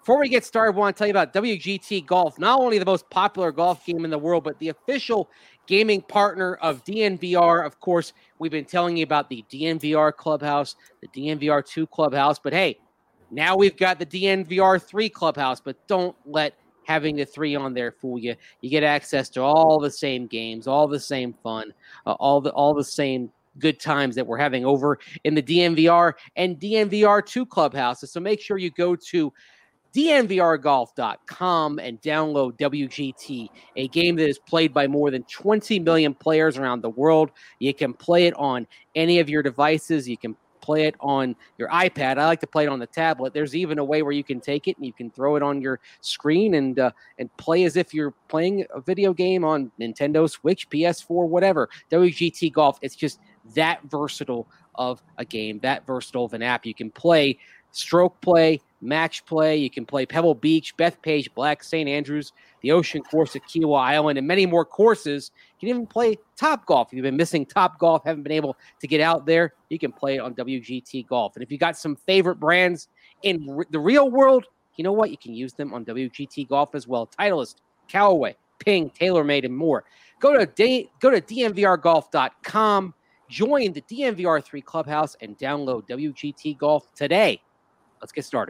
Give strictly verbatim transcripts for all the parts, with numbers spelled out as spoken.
Before we get started, I want to tell you about W G T Golf, not only the most popular golf game in the world, but the official gaming partner of D N V R. Of course, we've been telling you about the D N V R Clubhouse, the D N V R two Clubhouse, but hey, now we've got the D N V R three Clubhouse, but don't let having the three on there fool you. You get access to all the same games, all the same fun, uh, all the all the same good times that we're having over in the D N V R and D N V R two Clubhouses. So make sure you go to D N V R golf dot com and download W G T, a game that is played by more than twenty million players around the world. You can play it on any of your devices. You can play it on your iPad. I like to play it on the tablet. There's even a way where you can take it and you can throw it on your screen and uh, and play as if you're playing a video game on Nintendo Switch, P S four, whatever. W G T Golf, it's just that versatile of a game, that versatile of an app. You can play stroke play, match play. You can play Pebble Beach, Bethpage, Black, Saint Andrews, the Ocean Course at Kiawah Island, and many more courses. You can even play Top Golf. If you've been missing Top Golf, haven't been able to get out there, you can play it on W G T Golf. And if you got some favorite brands in r- the real world, you know what? You can use them on W G T Golf as well. Titleist, Callaway, Ping, TaylorMade, and more. Go to D- go to D N V R golf dot com, join the D N V R three Clubhouse, and download W G T Golf today. Let's get started.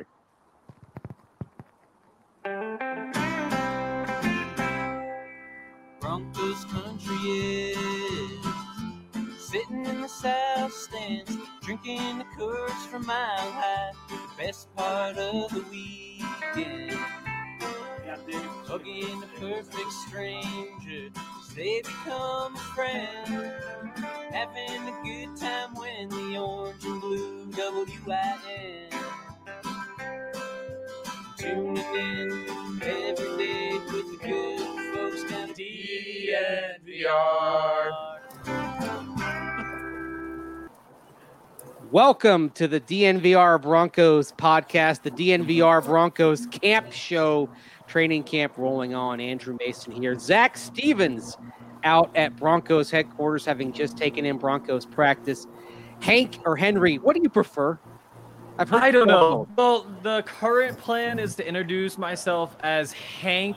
Broncos country is sitting in the south stands, drinking the Coors from Mile High. The best part of the weekend, hugging a perfect stranger, they become a friend, having a good time when the orange and blue W I N. Tuning in every day with the good folks down at D N V R. Welcome to the D N V R Broncos podcast, the D N V R Broncos Camp Show. Training camp rolling on. Andrew Mason here. Zach Stevens out at Broncos headquarters, having just taken in Broncos practice. Hank or Henry, what do you prefer? I've heard I don't know. Well, the current plan is to introduce myself as Hank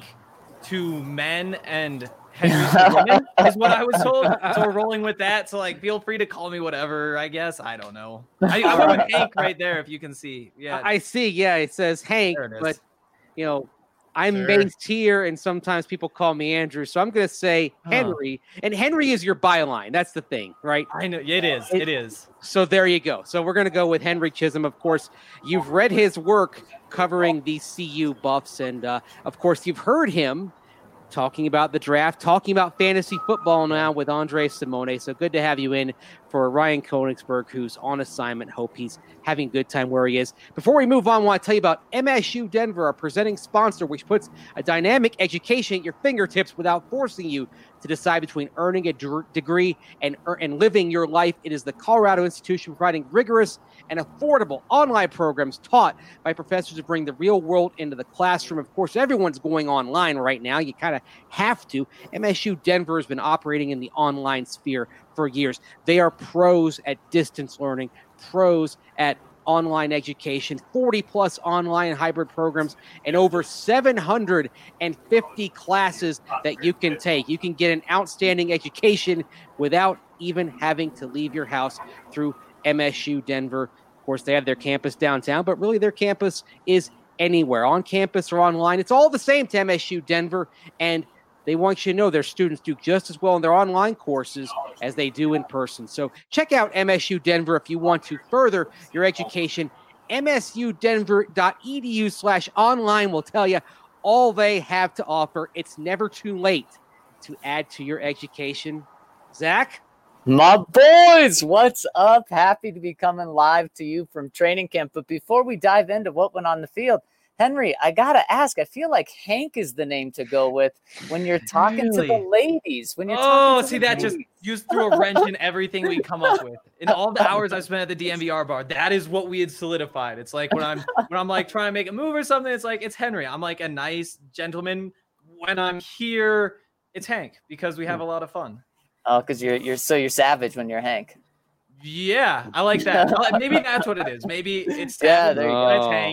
to men and Henry to women, is what I was told. So we're rolling with that. So, like, feel free to call me whatever, I guess. I don't know. I, I wrote Hank right there, if you can see. Yeah, I see. Yeah, it says Hank, it but, you know, I'm sure. Based here, and sometimes people call me Andrew, so I'm going to say Henry. Huh. And Henry is your byline. That's the thing, right? I know it is. It, it is. So there you go. So we're going to go with Henry Chisholm. Of course, you've read his work covering the C U Buffs, and uh, of course, you've heard him talking about the draft, talking about fantasy football now with Andre Simone. So good to have you in for Ryan Koenigsberg, who's on assignment. Hope he's having a good time where he is. Before we move on, I want to tell you about M S U Denver, our presenting sponsor, which puts a dynamic education at your fingertips without forcing you to decide between earning a d- degree and, er- and living your life. It is the Colorado institution providing rigorous and affordable online programs taught by professors who bring the real world into the classroom. Of course, everyone's going online right now. You kind of have to. M S U Denver has been operating in the online sphere for years. They are pros at distance learning, pros at online education, forty plus online hybrid programs, and over seven hundred fifty classes that you can take. You can get an outstanding education without even having to leave your house through M S U Denver. Of course, they have their campus downtown, but really their campus is anywhere, on campus or online. It's all the same to M S U Denver, and they want you to know their students do just as well in their online courses as they do in person. So check out M S U Denver if you want to further your education. M S U denver dot e d u slash online will tell you all they have to offer. It's never too late to add to your education. Zach? My boys, what's up? Happy to be coming live to you from training camp. But before we dive into what went on the field, Henry, I got to ask, I feel like Hank is the name to go with when you're talking really? to the ladies. When you're oh, talking to see, the that ladies. just you threw a wrench in everything we come up with. In all the hours I spent at the D N V R bar, that is what we had solidified. It's like when I'm when I'm like trying to make a move or something, it's like, it's Henry. I'm like a nice gentleman. When I'm here, it's Hank, because we have a lot of fun. Oh, because you're you're so you're savage when you're Hank. Yeah, I like that. Maybe that's what it is. Maybe it's yeah, savage, there you but go. It's Hank.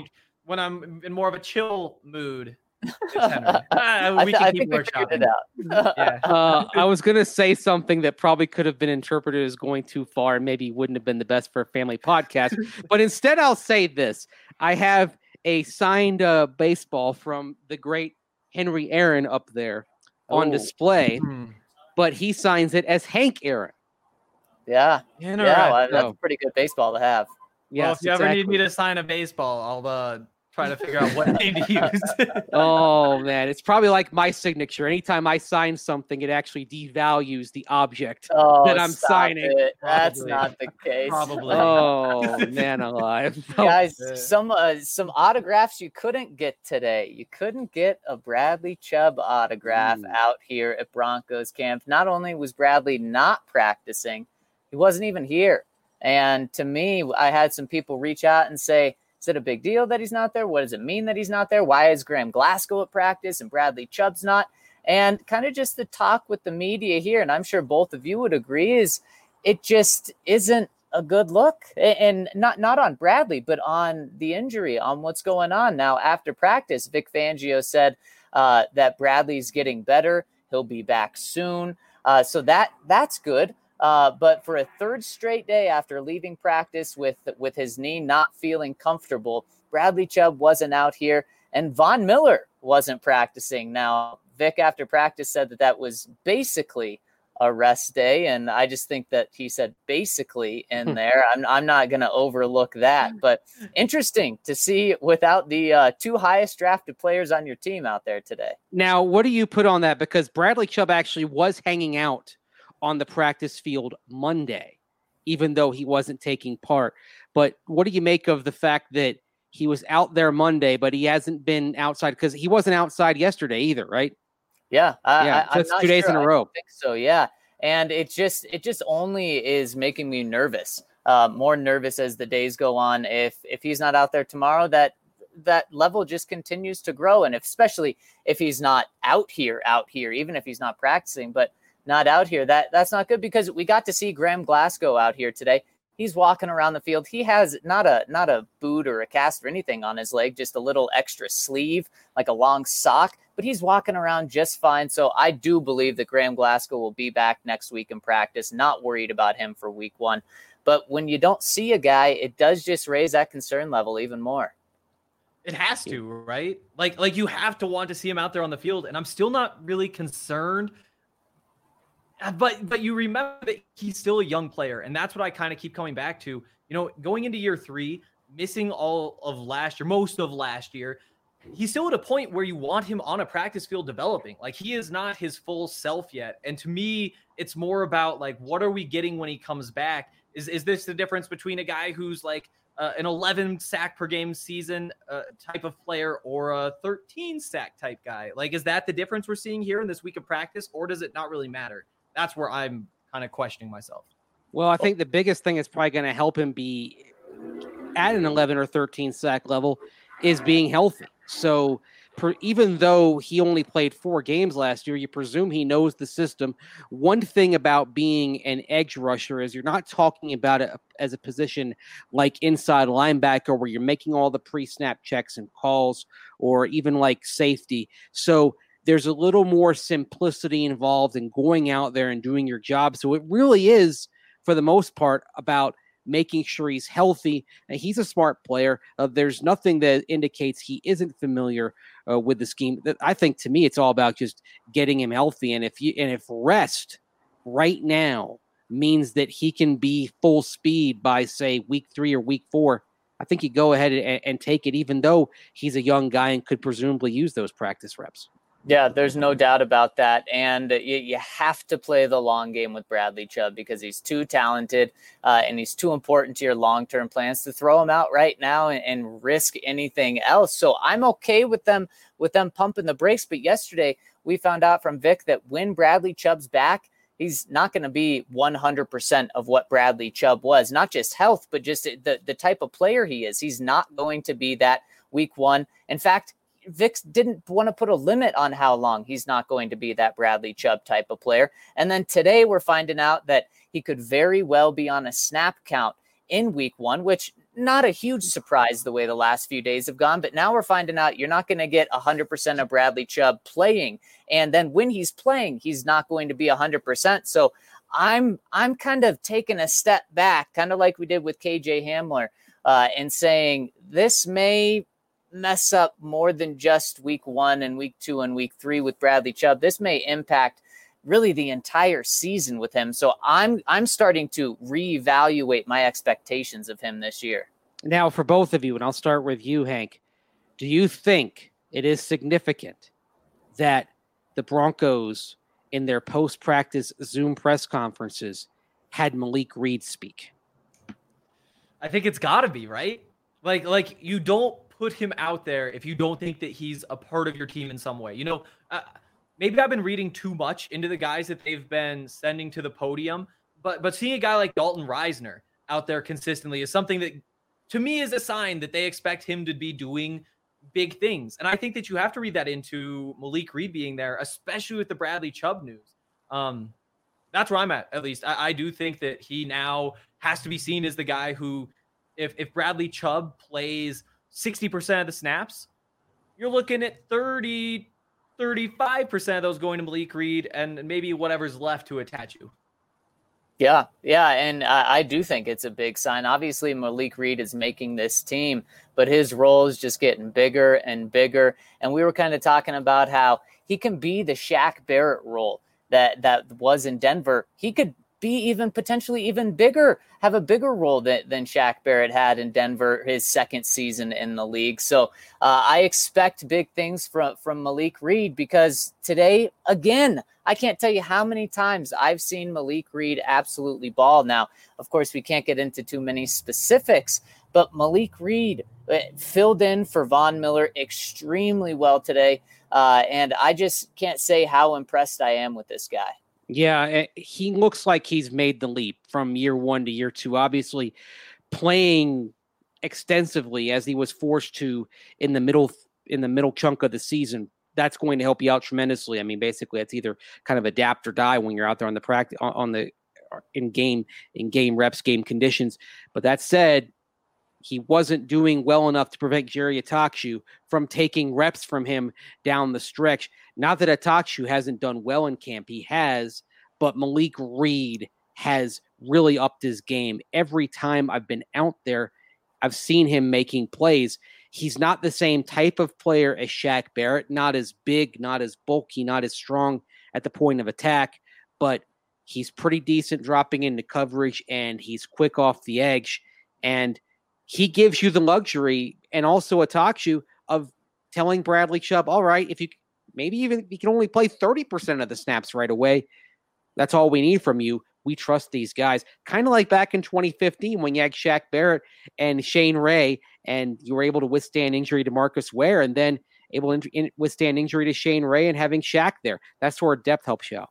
when I'm in more of a chill mood, it's Henry. Uh, we I, th- can I keep think we figured workshopping. it out. Yeah. Uh, I was gonna say something that probably could have been interpreted as going too far, and maybe wouldn't have been the best for a family podcast. But instead, I'll say this: I have a signed uh, baseball from the great Henry Aaron up there on Oh. display, Hmm. but he signs it as Hank Aaron. Yeah, yeah, well, that's So- a pretty good baseball to have. Well, Yes, if you ever need exactly. me to sign a baseball, I'll uh, try to figure out what name to use. Oh man, it's probably like my signature. Anytime I sign something, it actually devalues the object Oh, that I'm stop signing. it. That's Probably. not the case. Probably. Oh man, alive! Guys, Yeah. some uh, some autographs you couldn't get today. You couldn't get a Bradley Chubb autograph Ooh. out here at Broncos camp. Not only was Bradley not practicing, he wasn't even here. And to me, I had some people reach out and say, is it a big deal that he's not there? What does it mean that he's not there? Why is Graham Glasgow at practice and Bradley Chubb's not? And kind of just the talk with the media here, and I'm sure both of you would agree, is it just isn't a good look. And not, not on Bradley, but on the injury, on what's going on. Now, after practice, Vic Fangio said uh, that Bradley's getting better. He'll be back soon. Uh, so that that's good. Uh, but for a third straight day after leaving practice with with his knee not feeling comfortable, Bradley Chubb wasn't out here, and Von Miller wasn't practicing. Now, Vic after practice said that that was basically a rest day, and I just think that he said basically in there. I'm I'm not going to overlook that, but interesting to see without the uh, two highest drafted players on your team out there today. Now, what do you put on that? Because Bradley Chubb actually was hanging out on the practice field Monday, even though he wasn't taking part. But what do you make of the fact that he was out there Monday, but he hasn't been outside? Because he wasn't outside yesterday either, right? Yeah, I, Yeah, I, so I'm it's not two days sure. in a I row. don't think so, yeah. And it just it just only is making me nervous, uh, more nervous as the days go on. If if he's not out there tomorrow, that that level just continues to grow, and if, especially if he's not out here, out here, even if he's not practicing, but not out here, that that's not good, because we got to see Graham Glasgow out here today. He's walking around the field. He has not a not a boot or a cast or anything on his leg, just a little extra sleeve, like a long sock, but he's walking around just fine. So I do believe that Graham Glasgow will be back next week in practice. Not worried about him for week one. But when you don't see a guy, it does just raise that concern level even more. It has to, right? Like, like you have to want to see him out there on the field, and I'm still not really concerned. But but you remember that he's still a young player, and that's what I kind of keep coming back to. You know, going into year three, missing all of last year, most of last year, he's still at a point where you want him on a practice field developing. Like, he is not his full self yet. And to me, it's more about, like, what are we getting when he comes back? Is is this the difference between a guy who's like uh, an eleven sack per game season uh, type of player or a thirteen sack type guy? Like, is that the difference we're seeing here in this week of practice, or does it not really matter? That's where I'm kind of questioning myself. Well, I think the biggest thing that's probably going to help him be at an eleven or thirteen sack level is being healthy. So per, even though he only played four games last year, you presume he knows the system. One thing about being an edge rusher is you're not talking about it as a position like inside linebacker where you're making all the pre-snap checks and calls, or even like safety. So there's a little more simplicity involved in going out there and doing your job. So it really is, for the most part, about making sure he's healthy. And he's a smart player. Uh, there's nothing that indicates he isn't familiar uh, with the scheme. I think, to me, it's all about just getting him healthy. And if you and if rest right now means that he can be full speed by, say, week three or week four, I think you go ahead and, and take it, even though he's a young guy and could presumably use those practice reps. Yeah, there's no doubt about that. And you, you have to play the long game with Bradley Chubb because he's too talented uh, and he's too important to your long-term plans to throw him out right now and, and risk anything else. So I'm okay with them with them pumping the brakes. But yesterday we found out from Vic that when Bradley Chubb's back, he's not going to be one hundred percent of what Bradley Chubb was, not just health, but just the, the type of player he is. He's not going to be that week one. In fact, Vic didn't want to put a limit on how long he's not going to be that Bradley Chubb type of player. And then today we're finding out that he could very well be on a snap count in week one, which not a huge surprise the way the last few days have gone, but now we're finding out you're not going to get one hundred percent of Bradley Chubb playing. And then when he's playing, he's not going to be one hundred percent. So I'm I'm kind of taking a step back, kind of like we did with K J Hamler, uh, and saying this may mess up more than just week one and week two and week three with Bradley Chubb. This may impact really the entire season with him. So I'm I'm starting to reevaluate my expectations of him this year. Now, for both of you, and I'll start with you, Hank, do you think it is significant that the Broncos in their post-practice Zoom press conferences had Malik Reed speak? I think it's got to be, right? Like, like you don't put him out there if you don't think that he's a part of your team in some way. You know, uh, maybe I've been reading too much into the guys that they've been sending to the podium, but but seeing a guy like Dalton Reisner out there consistently is something that, to me, is a sign that they expect him to be doing big things. And I think that you have to read that into Malik Reed being there, especially with the Bradley Chubb news. Um, that's where I'm at, at least. I, I do think that he now has to be seen as the guy who, if, if Bradley Chubb plays sixty percent of the snaps, you're looking at thirty, thirty-five percent of those going to Malik Reed and maybe whatever's left to attach you. Yeah, yeah, and I, I do think it's a big sign. Obviously, Malik Reed is making this team, but his role is just getting bigger and bigger. And we were kind of talking about how he can be the Shaq Barrett role that, that was in Denver. He could be even potentially even bigger, have a bigger role than, than Shaq Barrett had in Denver his second season in the league. So uh, I expect big things from, from Malik Reed, because today, again, I can't tell you how many times I've seen Malik Reed absolutely ball. Now, of course, we can't get into too many specifics, but Malik Reed filled in for Von Miller extremely well today. Uh, and I just can't say how impressed I am with this guy. Yeah, he looks like he's made the leap from year one to year two. Obviously, playing extensively as he was forced to in the middle in the middle chunk of the season, that's going to help you out tremendously. I mean, basically, it's either kind of adapt or die when you're out there on the practice on the in game in game reps, game conditions. But that said, he wasn't doing well enough to prevent Jerry Attaochu from taking reps from him down the stretch. Not that Attaochu hasn't done well in camp. He has, but Malik Reed has really upped his game. Every time I've been out there, I've seen him making plays. He's not the same type of player as Shaq Barrett, not as big, not as bulky, not as strong at the point of attack, but he's pretty decent dropping into coverage, and he's quick off the edge. And he gives you the luxury, and also Attaochu, of telling Bradley Chubb, all right, if you maybe even if you can only play thirty percent of the snaps right away, that's all we need from you. We trust these guys. Kind of like back in twenty fifteen when you had Shaq Barrett and Shane Ray, and you were able to withstand injury to Marcus Ware, and then able to in- withstand injury to Shane Ray and having Shaq there. That's where depth helps you out.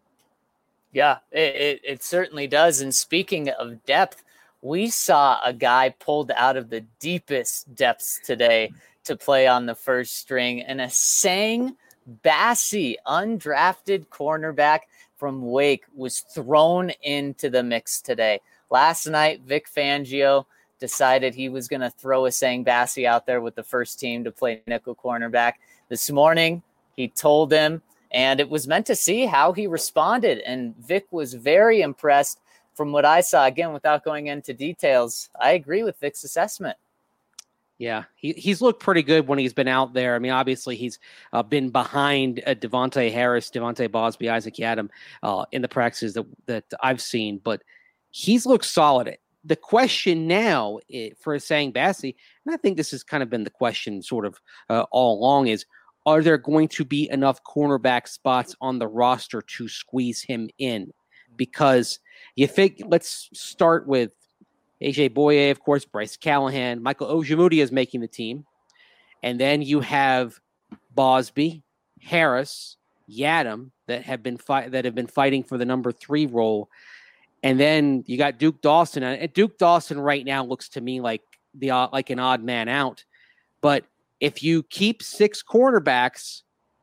Yeah, it, it, it certainly does. And speaking of depth, we saw a guy pulled out of the deepest depths today to play on the first string, and Essang Bassey, undrafted cornerback from Wake, was thrown into the mix today. Last night, Vic Fangio decided he was going to throw Essang Bassey out there with the first team to play nickel cornerback. This morning, he told him, and it was meant to see how he responded, and Vic was very impressed. From what I saw, again, without going into details, I agree with Vic's assessment. Yeah, he, he's looked pretty good when he's been out there. I mean, obviously, he's uh, been behind uh, Devontae Harris, Devontae Bosby, Isaac Yiadom uh, in the practices that, that I've seen, but he's looked solid. The question now it, for Essang Bassey, and I think this has kind of been the question sort of uh, all along, is are there going to be enough cornerback spots on the roster to squeeze him in? Because you think, let's start with A J Boye, of course, Bryce Callahan, Michael Ojemudia is making the team. And then you have Bosby, Harris, Yiadom that have been fi- that have been fighting for the number three role. And then you got Duke Dawson. And Duke Dawson right now looks to me like the uh, like an odd man out. But if you keep six cornerbacks,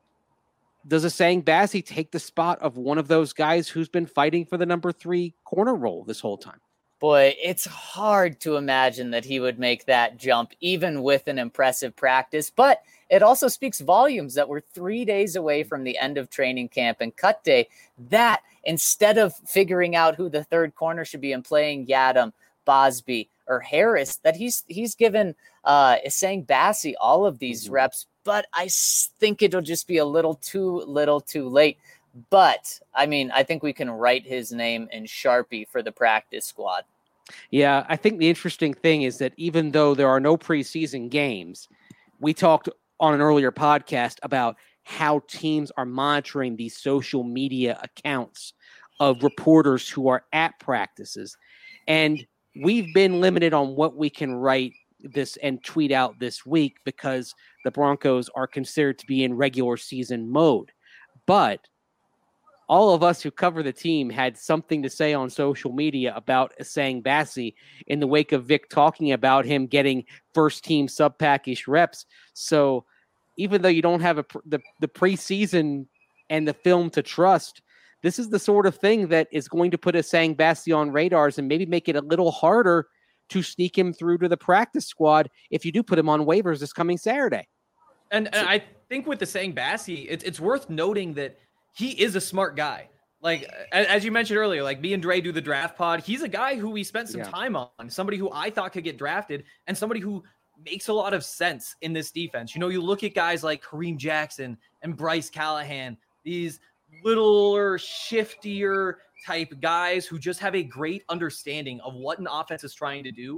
does Essang Bassey take the spot of one of those guys who's been fighting for the number three corner role this whole time? Boy, it's hard to imagine that he would make that jump, even with an impressive practice. But it also speaks volumes that we're three days away from the end of training camp and cut day. That instead of figuring out who the third corner should be and playing Yadam, Bosby, or Harris, that he's he's given uh, Essang Bassey all of these mm-hmm. reps. But I think it'll just be a little too little too late. But, I mean, I think we can write his name in Sharpie for the practice squad. Yeah, I think the interesting thing is that even though there are no preseason games, we talked on an earlier podcast about how teams are monitoring these social media accounts of reporters who are at practices. And we've been limited on what we can write this and tweet out this week because the Broncos are considered to be in regular season mode. But all of us who cover the team had something to say on social media about Essang Bassey in the wake of Vic talking about him getting first team sub package reps. So even though you don't have a, the, the preseason and the film to trust, this is the sort of thing that is going to put Essang Bassey on radars and maybe make it a little harder to sneak him through to the practice squad if you do put him on waivers this coming Saturday. And, and I think with Essang Bassey, it's it's worth noting that he is a smart guy. Like, as you mentioned earlier, like me and Dre do the draft pod. He's a guy who we spent some yeah. time on, somebody who I thought could get drafted and somebody who makes a lot of sense in this defense. You know, you look at guys like Kareem Jackson and Bryce Callahan, these littler, shiftier type guys who just have a great understanding of what an offense is trying to do.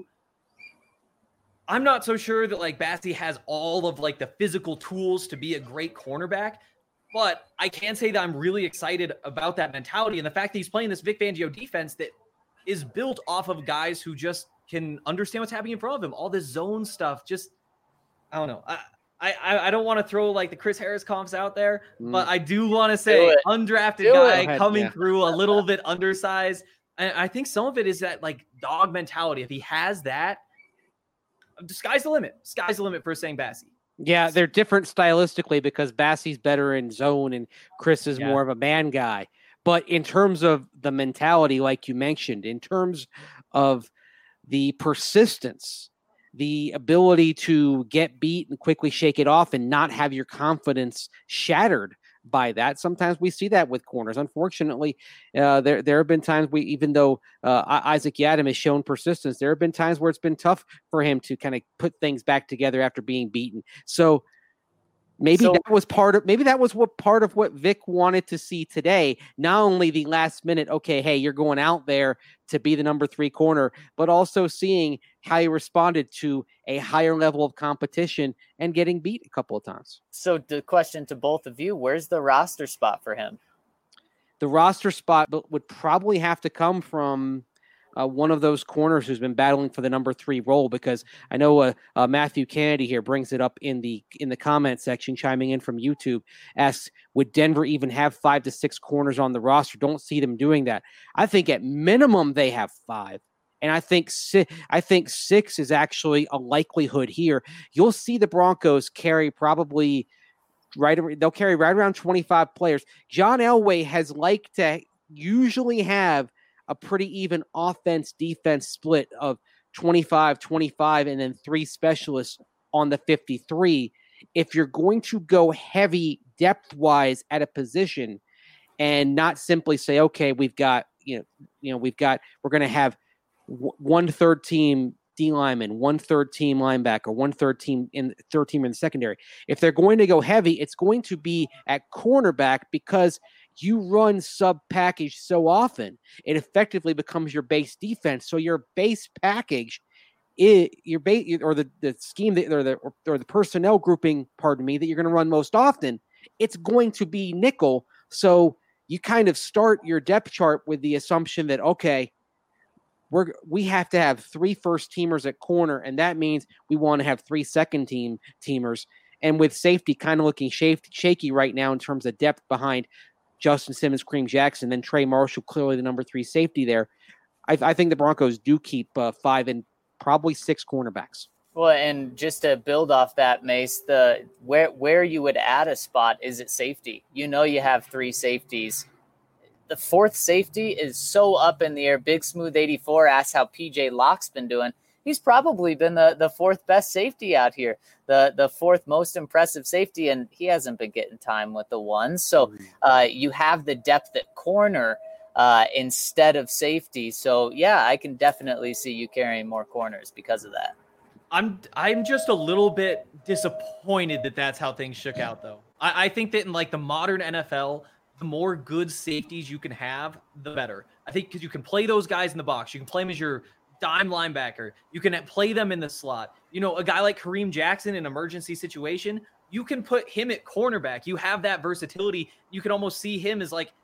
I'm not so sure that like Bassey has all of like the physical tools to be a great cornerback, but I can say that I'm really excited about that mentality and the fact that he's playing this Vic Fangio defense that is built off of guys who just can understand what's happening in front of him. All this zone stuff, just, I don't know. I I, I don't want to throw like the Chris Harris comps out there, mm. but I do want to say undrafted do guy it. coming yeah. through a little bit undersized. And I think some of it is that like dog mentality. If he has that, the sky's the limit. Sky's the limit for Essang Bassey. Yeah, they're different stylistically because Bassey's better in zone and Chris is yeah. more of a man guy. But in terms of the mentality, like you mentioned, in terms of the persistence, the ability to get beat and quickly shake it off and not have your confidence shattered by that. Sometimes we see that with corners. Unfortunately, uh, there there have been times we, even though uh, Isaac Yadam has shown persistence, there have been times where it's been tough for him to kind of put things back together after being beaten. So maybe so, that was part of maybe that was what part of what Vic wanted to see today. Not only the last minute, okay, hey, you're going out there to be the number three corner, but also seeing how he responded to a higher level of competition and getting beat a couple of times. So the question to both of you, where's the roster spot for him? The roster spot would probably have to come from uh, one of those corners who's been battling for the number three role, because I know uh, uh, Matthew Kennedy here brings it up in the in the comment section, chiming in from YouTube, asks, would Denver even have five to six corners on the roster? Don't see them doing that. I think at minimum they have five. And I think si- I think six is actually a likelihood here. You'll see the Broncos carry probably right. They'll carry right around twenty-five players. John Elway has liked to usually have a pretty even offense defense split of twenty-five, twenty-five, and then three specialists on the fifty-three. If you're going to go heavy depth wise at a position and not simply say, okay, we've got, you know, you know, we've got, we're going to have one third team D lineman, one third team linebacker, one third team in third team in the secondary. If they're going to go heavy, it's going to be at cornerback because you run sub package so often, it effectively becomes your base defense. So your base package is your base or the, the scheme that or the or, or the personnel grouping, pardon me, that you're going to run most often. It's going to be nickel. So you kind of start your depth chart with the assumption that, okay, We're we have to have three first teamers at corner, and that means we want to have three second team teamers. And with safety kind of looking shaky, shaky right now in terms of depth behind Justin Simmons, Kareem Jackson, then Trey Marshall, clearly the number three safety there. I, I think the Broncos do keep uh, five and probably six cornerbacks. Well, and just to build off that, Mace, the where where you would add a spot is at safety. You know, you have three safeties. the fourth safety is so up in the air. Big Smooth eighty-four asks how P J Locke's been doing. He's probably been the, the fourth best safety out here, the the fourth most impressive safety, and he hasn't been getting time with the ones. So uh, you have the depth at corner uh, instead of safety. So, yeah, I can definitely see you carrying more corners because of that. I'm I'm just a little bit disappointed that that's how things shook out, though. I, I think that in like the modern N F L, the more good safeties you can have, the better. I think because you can play those guys in the box. You can play them as your dime linebacker. You can play them in the slot. You know, a guy like Kareem Jackson in an emergency situation, you can put him at cornerback. You have that versatility. You can almost see him as like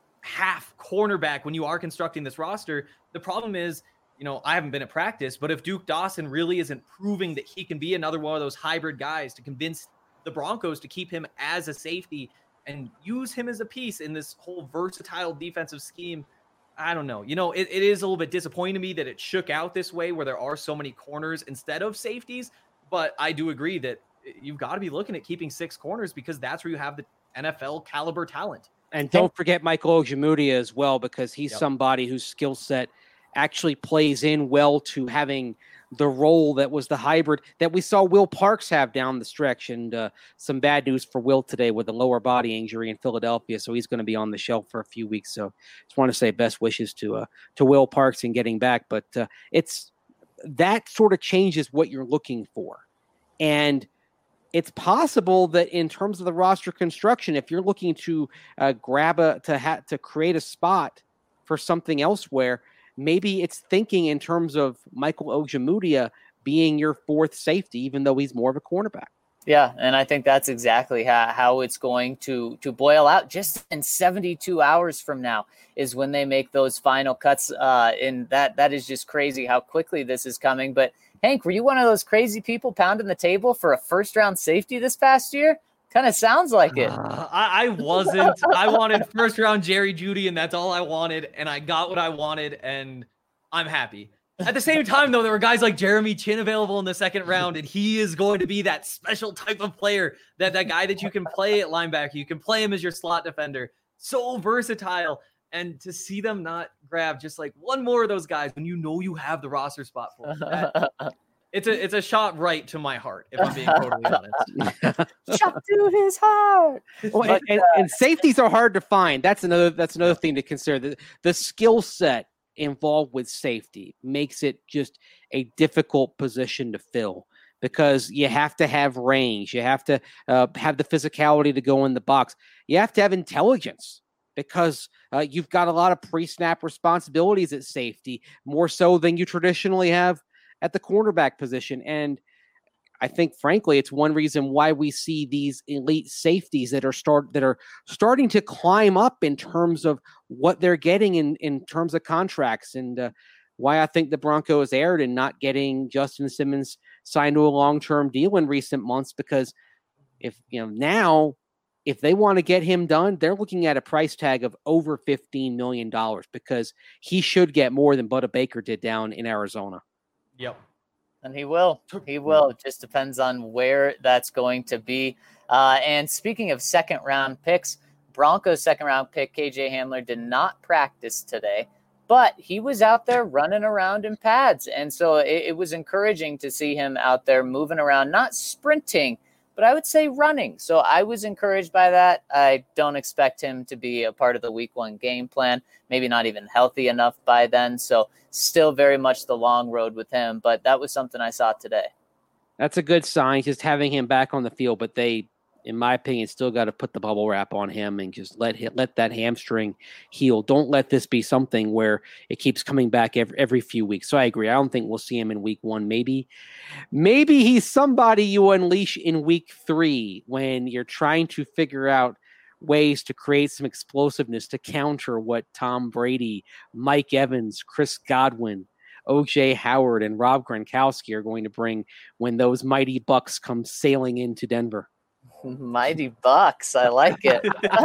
half cornerback when you are constructing this roster. The problem is, you know, I haven't been at practice, but if Duke Dawson really isn't proving that he can be another one of those hybrid guys to convince the Broncos to keep him as a safety and use him as a piece in this whole versatile defensive scheme, I don't know. You know, it, it is a little bit disappointing to me that it shook out this way where there are so many corners instead of safeties. But I do agree that you've got to be looking at keeping six corners because that's where you have the N F L caliber talent. And don't forget Michael Ojemudia as well, because he's yep. somebody whose skill set actually plays in well to having the role that was the hybrid that we saw Will Parks have down the stretch. And uh, some bad news for Will today with a lower body injury in Philadelphia. So he's going to be on the shelf for a few weeks. So just want to say best wishes to uh, to Will Parks in getting back. But uh, it's that sort of changes what you're looking for. And it's possible that in terms of the roster construction, if you're looking to uh, grab a, to ha- to create a spot for something elsewhere, maybe it's thinking in terms of Michael Ojemudia being your fourth safety, even though he's more of a cornerback. Yeah, and I think that's exactly how, how it's going to, to boil out. Just in seventy-two hours from now is when they make those final cuts. Uh, and that that is just crazy how quickly this is coming. But, Hank, were you one of those crazy people pounding the table for a first-round safety this past year? Kind of sounds like it. Uh, I, I wasn't. I wanted first round Jerry Jeudy, and that's all I wanted. And I got what I wanted, and I'm happy. At the same time, though, there were guys like Jeremy Chin available in the second round, and he is going to be that special type of player, that that guy that you can play at linebacker. You can play him as your slot defender. So versatile. And to see them not grab just like one more of those guys when you know you have the roster spot for them. It's a it's a shot right to my heart, if I'm being totally honest. Shot to his heart. Well, and, and, and safeties are hard to find. That's another that's another thing to consider. The, the skill set involved with safety makes it just a difficult position to fill because you have to have range. You have to uh, have the physicality to go in the box. You have to have intelligence because uh, you've got a lot of pre-snap responsibilities at safety, more so than you traditionally have at the cornerback position. And I think, frankly, it's one reason why we see these elite safeties that are start that are starting to climb up in terms of what they're getting in, in terms of contracts, and uh, why I think the Broncos erred in not getting Justin Simmons signed to a long-term deal in recent months. Because if you know now, if they want to get him done, they're looking at a price tag of over fifteen million dollars because he should get more than Budda Baker did down in Arizona. Yep. And he will. He will. It just depends on where that's going to be. Uh, and speaking of second round picks, Broncos second round pick K J Hamler did not practice today, but he was out there running around in pads. And so it, it was encouraging to see him out there moving around, not sprinting, but I would say running. So I was encouraged by that. I don't expect him to be a part of the week one game plan, maybe not even healthy enough by then. So still very much the long road with him, but that was something I saw today. That's a good sign, just having him back on the field, but they, in my opinion, still got to put the bubble wrap on him and just let him, let that hamstring heal. Don't let this be something where it keeps coming back every, every few weeks. So I agree. I don't think we'll see him in week one. Maybe, maybe he's somebody you unleash in week three when you're trying to figure out ways to create some explosiveness to counter what Tom Brady, Mike Evans, Chris Godwin, O J Howard, and Rob Gronkowski are going to bring when those mighty Bucks come sailing into Denver. Mighty Bucks. I like it.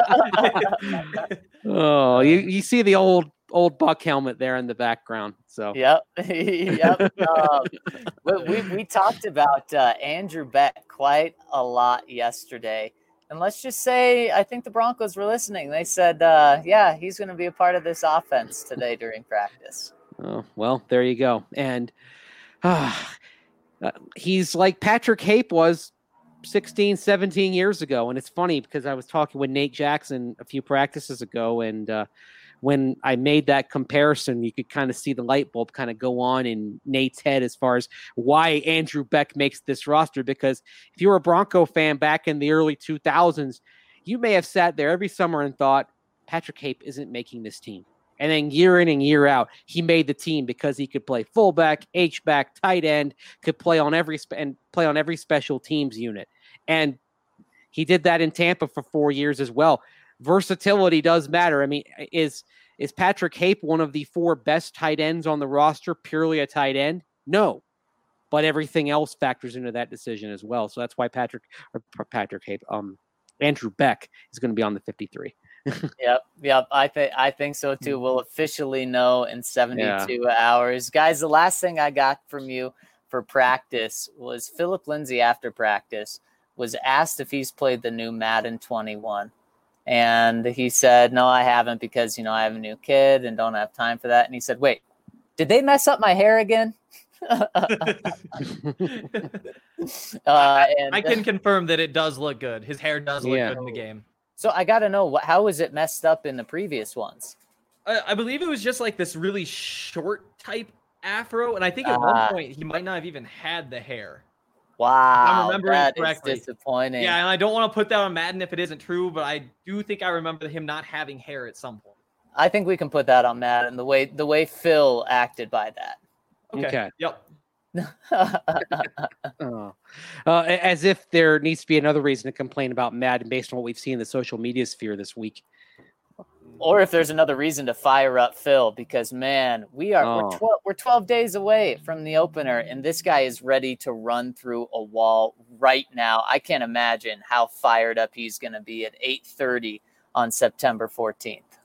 Oh, you, you see the old old Buck helmet there in the background. So yep. yep. Um, we, we, we talked about uh, Andrew Beck quite a lot yesterday. And let's just say, I think the Broncos were listening. They said, uh, yeah, he's going to be a part of this offense today during practice. Oh, well, there you go. And uh, uh, he's like Patrick Hape was sixteen, seventeen years ago. And it's funny because I was talking with Nate Jackson a few practices ago, and uh, when I made that comparison, you could kind of see the light bulb kind of go on in Nate's head as far as why Andrew Beck makes this roster. Because if you were a Bronco fan back in the early two thousands, you may have sat there every summer and thought, Patrick Hape isn't making this team. And then year in and year out, he made the team because he could play fullback, H-back, tight end, could play on every spe- and play on every special teams unit. And he did that in Tampa for four years as well. Versatility does matter. I mean, is is Patrick Hape one of the four best tight ends on the roster, purely a tight end? No. But everything else factors into that decision as well. So that's why Patrick or Patrick Hape, um, Andrew Beck is going to be on the fifty-three. Yep, yep. I think I think so too. We'll officially know in seventy-two yeah. hours, guys. The last thing I got from you for practice was Philip Lindsay after practice was asked if he's played the new Madden twenty-one. And he said, no, I haven't because, you know, I have a new kid and don't have time for that. And he said, wait, did they mess up my hair again? uh, and, I can confirm that it does look good. His hair does look yeah. good in the game. So I got to know, what, how was it messed up in the previous ones? I, I believe it was just like this really short type afro. And I think at uh, one point he might not have even had the hair. Wow, that is disappointing. Yeah, and I don't want to put that on Madden if it isn't true, but I do think I remember him not having hair at some point. I think we can put that on Madden, the way the way Phil acted by that. Okay. okay. Yep. oh. uh, as if there needs to be another reason to complain about Madden based on what we've seen in the social media sphere this week. Or if there's another reason to fire up Phil, because man, we are oh. we're twelve we're twelve days away from the opener, and this guy is ready to run through a wall right now. I can't imagine how fired up he's going to be at eight thirty on September fourteenth.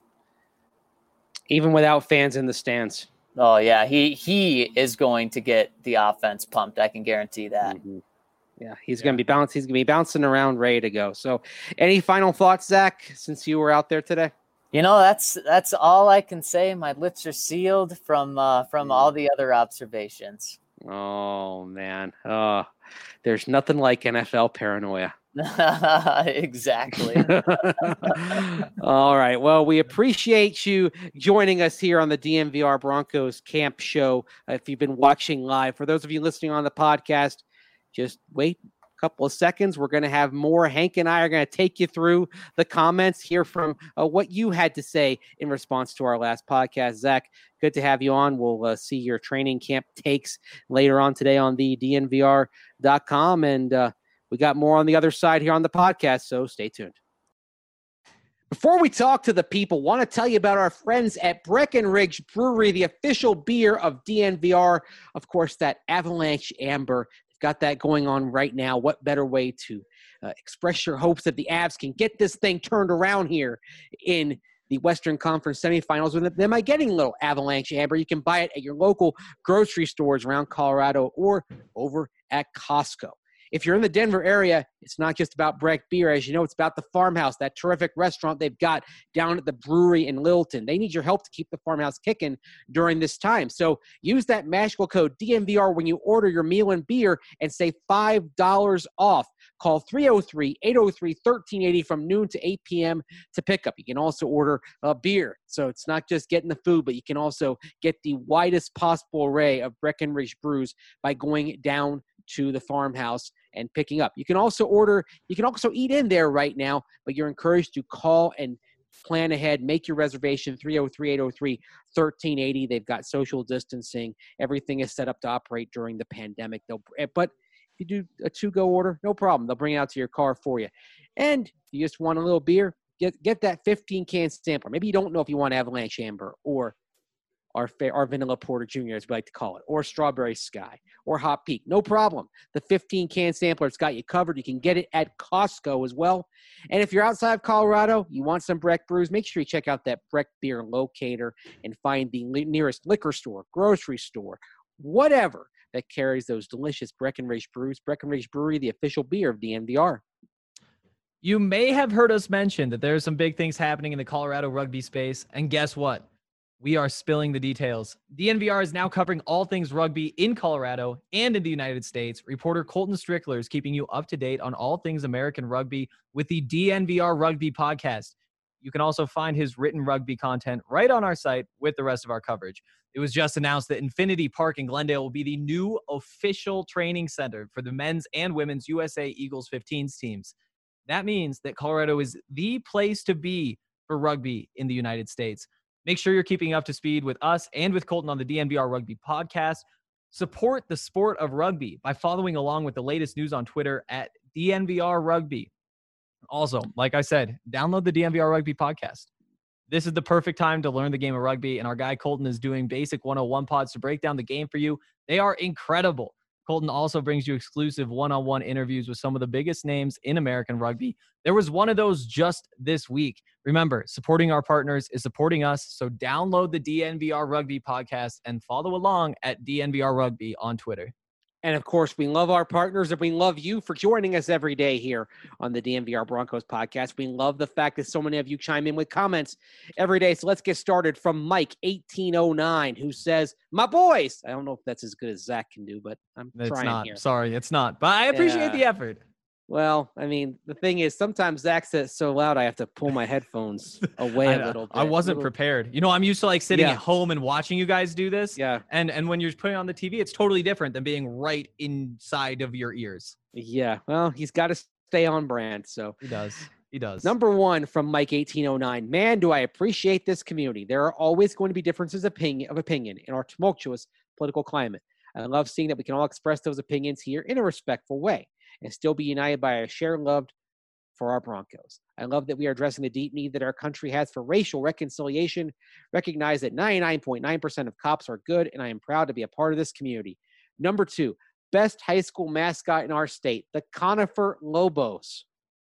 Even without fans in the stands. Oh yeah, he he is going to get the offense pumped. I can guarantee that. Mm-hmm. Yeah, he's yeah. going to be bouncing. He's going to be bouncing around, ready to go. So, any final thoughts, Zach? Since you were out there today. You know, that's that's all I can say. My lips are sealed from uh, from all the other observations. Oh, man. Oh, there's nothing like N F L paranoia. Exactly. All right. Well, we appreciate you joining us here on the D N V R Broncos Camp Show. Uh, if you've been watching live, for those of you listening on the podcast, just wait couple of seconds. We're going to have more. Hank and I are going to take you through the comments, hear from uh, what you had to say in response to our last podcast. Zach, good to have you on. We'll uh, see your training camp takes later on today on the D N V R dot com. And uh, we got more on the other side here on the podcast, so stay tuned. Before we talk to the people, want to tell you about our friends at Breckenridge Brewery, the official beer of D N V R. Of course, that Avalanche Amber. Got that going on right now. What better way to uh, express your hopes that the Avs can get this thing turned around here in the Western Conference semifinals with them by getting a little Avalanche Amber. You can buy it at your local grocery stores around Colorado or over at Costco. If you're in the Denver area, it's not just about Breck Beer. As you know, it's about the Farmhouse, that terrific restaurant they've got down at the brewery in Littleton. They need your help to keep the Farmhouse kicking during this time. So use that magical code D N V R when you order your meal and beer and save five dollars off. Call three oh three, eight oh three, one three eight oh from noon to eight p.m. to pick up. You can also order a beer. So it's not just getting the food, but you can also get the widest possible array of Breckenridge brews by going down to the Farmhouse and picking up. You can also order, you can also eat in there right now, but you're encouraged to call and plan ahead, make your reservation, three oh three, eight oh three, one three eight oh. They've got social distancing. Everything is set up to operate during the pandemic. They'll, but if you do a to-go order, no problem. They'll bring it out to your car for you. And you just want a little beer, get get that fifteen-can sampler. Maybe you don't know if you want Avalanche Amber or Our, our Vanilla Porter Junior, as we like to call it, or Strawberry Sky, or Hot Peak. No problem. The fifteen-can sampler's got you covered. You can get it at Costco as well. And if you're outside of Colorado, you want some Breck brews, make sure you check out that Breck Beer Locator and find the nearest liquor store, grocery store, whatever that carries those delicious Breckenridge brews. Breckenridge Brewery, the official beer of D N V R. You may have heard us mention that there are some big things happening in the Colorado rugby space. And guess what? We are spilling the details. D N V R is now covering all things rugby in Colorado and in the United States. Reporter Colton Strickler is keeping you up to date on all things American rugby with the D N V R Rugby podcast. You can also find his written rugby content right on our site with the rest of our coverage. It was just announced that Infinity Park in Glendale will be the new official training center for the men's and women's U S A Eagles fifteens teams. That means that Colorado is the place to be for rugby in the United States. Make sure you're keeping up to speed with us and with Colton on the D N V R Rugby podcast. Support the sport of rugby by following along with the latest news on Twitter at D N V R Rugby. Also, like I said, download the D N V R Rugby podcast. This is the perfect time to learn the game of rugby, and our guy Colton is doing basic one oh one pods to break down the game for you. They are incredible. Colton also brings you exclusive one-on-one interviews with some of the biggest names in American rugby. There was one of those just this week. Remember, supporting our partners is supporting us, so download the D N V R Rugby podcast and follow along at D N V R Rugby on Twitter. And of course, we love our partners and we love you for joining us every day here on the D N V R Broncos podcast. We love the fact that so many of you chime in with comments every day. So let's get started from Mike eighteen oh nine, who says, my boys. I don't know if that's as good as Zach can do, but I'm it's trying not. here. Sorry, it's not. But I appreciate Yeah. the effort. Well, I mean, the thing is, sometimes Zach says so loud I have to pull my headphones away I, a little bit. I wasn't little, prepared. You know, I'm used to like sitting Yeah. at home and watching you guys do this. Yeah. And and when you're putting it on the T V, it's totally different than being right inside of your ears. Yeah. Well, he's got to stay on brand. So He does. He does. number one from Mike eighteen oh nine. Man, do I appreciate this community. There are always going to be differences of opinion, of opinion in our tumultuous political climate. I love seeing that we can all express those opinions here in a respectful way and still be united by a shared love for our Broncos. I love that we are addressing the deep need that our country has for racial reconciliation. Recognize that ninety-nine point nine percent of cops are good, and I am proud to be a part of this community. Number two, best high school mascot in our state, the Conifer Lobos.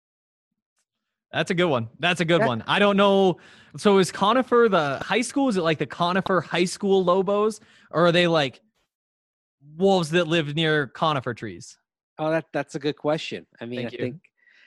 That's a good one. That's a good That- one. I don't know. So is Conifer the high school? Is it like the Conifer High School Lobos? Or are they like wolves that live near conifer trees? Oh, that that's a good question. I mean, Thank I you. think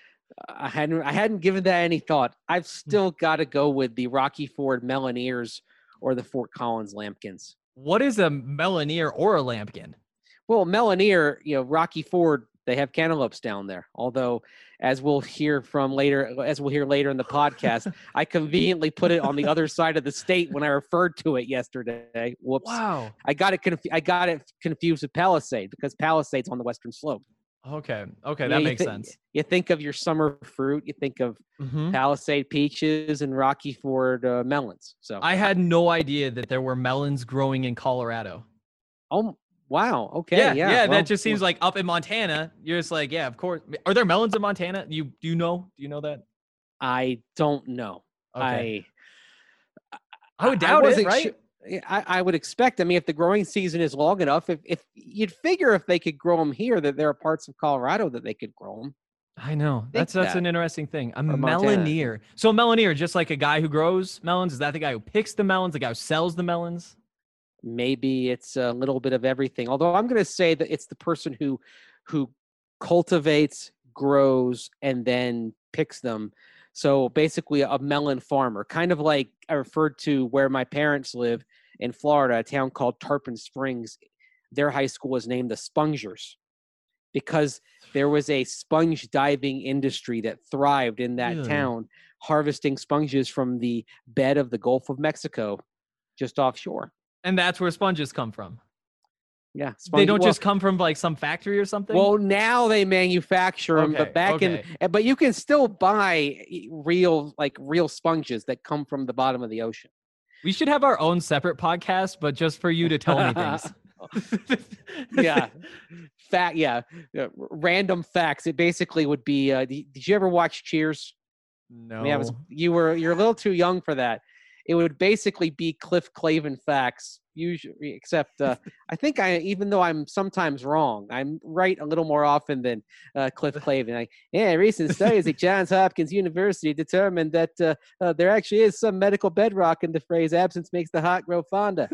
I hadn't I hadn't given that any thought. I've still got to go with the Rocky Ford Melineers or the Fort Collins Lambkins. What is a Melineer or a lambkin? Well, Melineer, you know, Rocky Ford, they have cantaloupes down there. Although, as we'll hear from later, as we'll hear later in the podcast, I conveniently put it on the other side of the state when I referred to it yesterday. Whoops! Wow. I got it. Conf- I got it confused with Palisade because Palisade's on the western slope. Okay. Okay. You That know, you makes thi- sense. You think of your summer fruit. You think of Mhm. Palisade peaches and Rocky Ford uh, melons. So, I had no idea that there were melons growing in Colorado. oh wow, okay, Yeah, yeah, yeah, well, that just seems like up in Montana. You're just like, yeah, of course. Are there melons in Montana? You do you know? Do you know that? I don't know. Okay. I I would doubt it, wasn't right? su- yeah, I, I would expect. I mean, if the growing season is long enough, if if you'd figure if they could grow them here, that there are parts of Colorado that they could grow them. I know. think That's that's that. an interesting thing. A Or Montana. melineer. So a melineer, just like a guy who grows melons, is that the guy who picks the melons, the guy who sells the melons? Maybe it's a little bit of everything. Although I'm going to say that it's the person who who cultivates, grows, and then picks them. So basically, a melon farmer, kind of like I referred to where my parents live in Florida, a town called Tarpon Springs. Their high school was named the Spongers because there was a sponge diving industry that thrived in that Really? town, harvesting sponges from the bed of the Gulf of Mexico, just offshore. And that's where sponges come from. Yeah, They sponge- don't well- just come from like some factory or something. Well, now they manufacture them, Okay, but back okay. in, but you can still buy e- real, like real sponges that come from the bottom of the ocean. we should have our own separate podcast, but just for you to tell me things. Yeah, fact. Yeah, uh, r- random facts. It basically would be. Uh, d- did you ever watch Cheers? No. I mean, I was. You were. You're a little too young for that. It would basically be Cliff Clavin facts. Usually, except uh, I think I, even though I'm sometimes wrong, I'm right a little more often than uh, Cliff Clavin. Like, yeah, recent studies at Johns Hopkins University determined that uh, uh, there actually is some medical bedrock in the phrase "absence makes the heart grow fonder."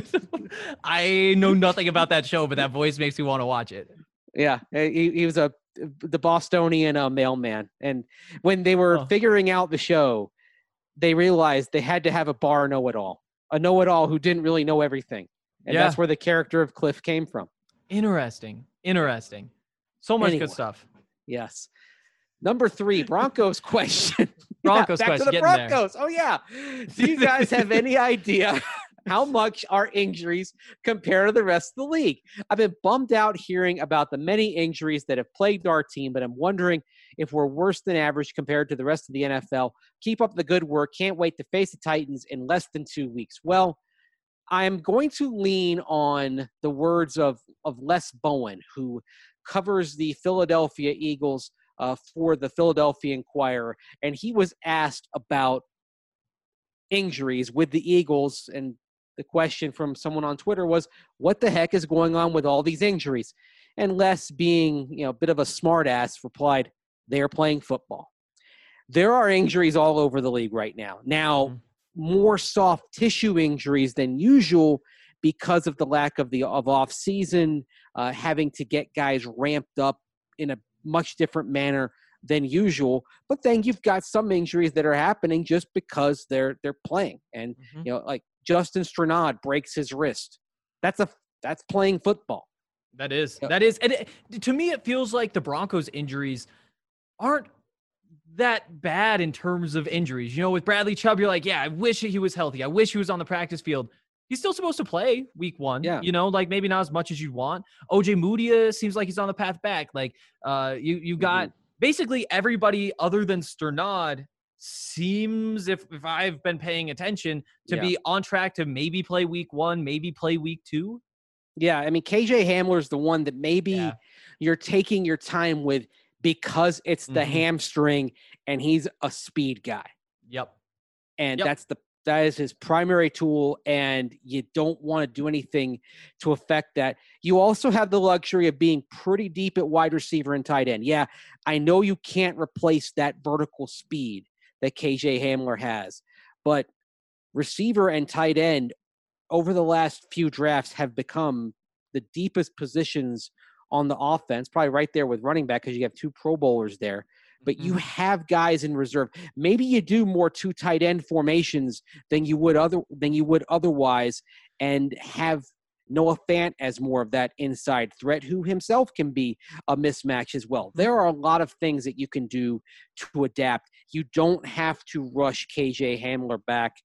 I know nothing about that show, but that voice makes me want to watch it. Yeah, uh, he, he was a the Bostonian uh, mailman. And when they were Oh. figuring out the show, they realized they had to have a bar know-it-all, a know-it-all who didn't really know everything. And Yeah. that's where the character of Cliff came from. Interesting. Interesting. So much Anyway. good stuff. Yes. Number three, Broncos question. Broncos yeah, back question, to the getting there. Broncos. Oh, yeah. Do you guys have any idea how much our injuries compare to the rest of the league? I've been bummed out hearing about the many injuries that have plagued our team, but I'm wondering if we're worse than average compared to the rest of the N F L. Keep up the good work. Can't wait to face the Titans in less than two weeks. Well, I'm going to lean on the words of, of Les Bowen, who covers the Philadelphia Eagles uh, for the Philadelphia Inquirer. And he was asked about injuries with the Eagles. And the question from someone on Twitter was, what the heck is going on with all these injuries? And Les, being, you know, a bit of a smartass, replied, they are playing football. There are injuries all over the league right now. Now, mm-hmm. more soft tissue injuries than usual because of the lack of the of off season, uh, having to get guys ramped up in a much different manner than usual. But then you've got some injuries that are happening just because they're they're playing. And mm-hmm. you know, like Justin Strnad breaks his wrist. That's a that's playing football. That is that is, and it, to me, it feels like the Broncos' injuries aren't that bad in terms of injuries. You know, with Bradley Chubb, you're like, yeah, I wish he was healthy. I wish he was on the practice field. He's still supposed to play week one. Yeah. You know, like maybe not as much as you'd want. O J Mudia seems like he's on the path back. Like uh, you, you got mm-hmm. basically everybody other than Strnad seems, if, if I've been paying attention, to yeah. be on track to maybe play week one, maybe play week two. Yeah. I mean, K J Hamler's the one that maybe yeah. you're taking your time with, because it's the mm-hmm. hamstring and he's a speed guy. Yep. And yep. that's the, that is his primary tool. And you don't want to do anything to affect that. You also have the luxury of being pretty deep at wide receiver and tight end. Yeah. I know you can't replace that vertical speed that K J Hamler has, but receiver and tight end over the last few drafts have become the deepest positions on the offense, probably right there with running back because you have two Pro Bowlers there. But mm-hmm. you have guys in reserve. Maybe you do more two tight end formations than you would other than you would otherwise, and have Noah Fant as more of that inside threat, who himself can be a mismatch as well. There are a lot of things that you can do to adapt. You don't have to rush K J Hamler back.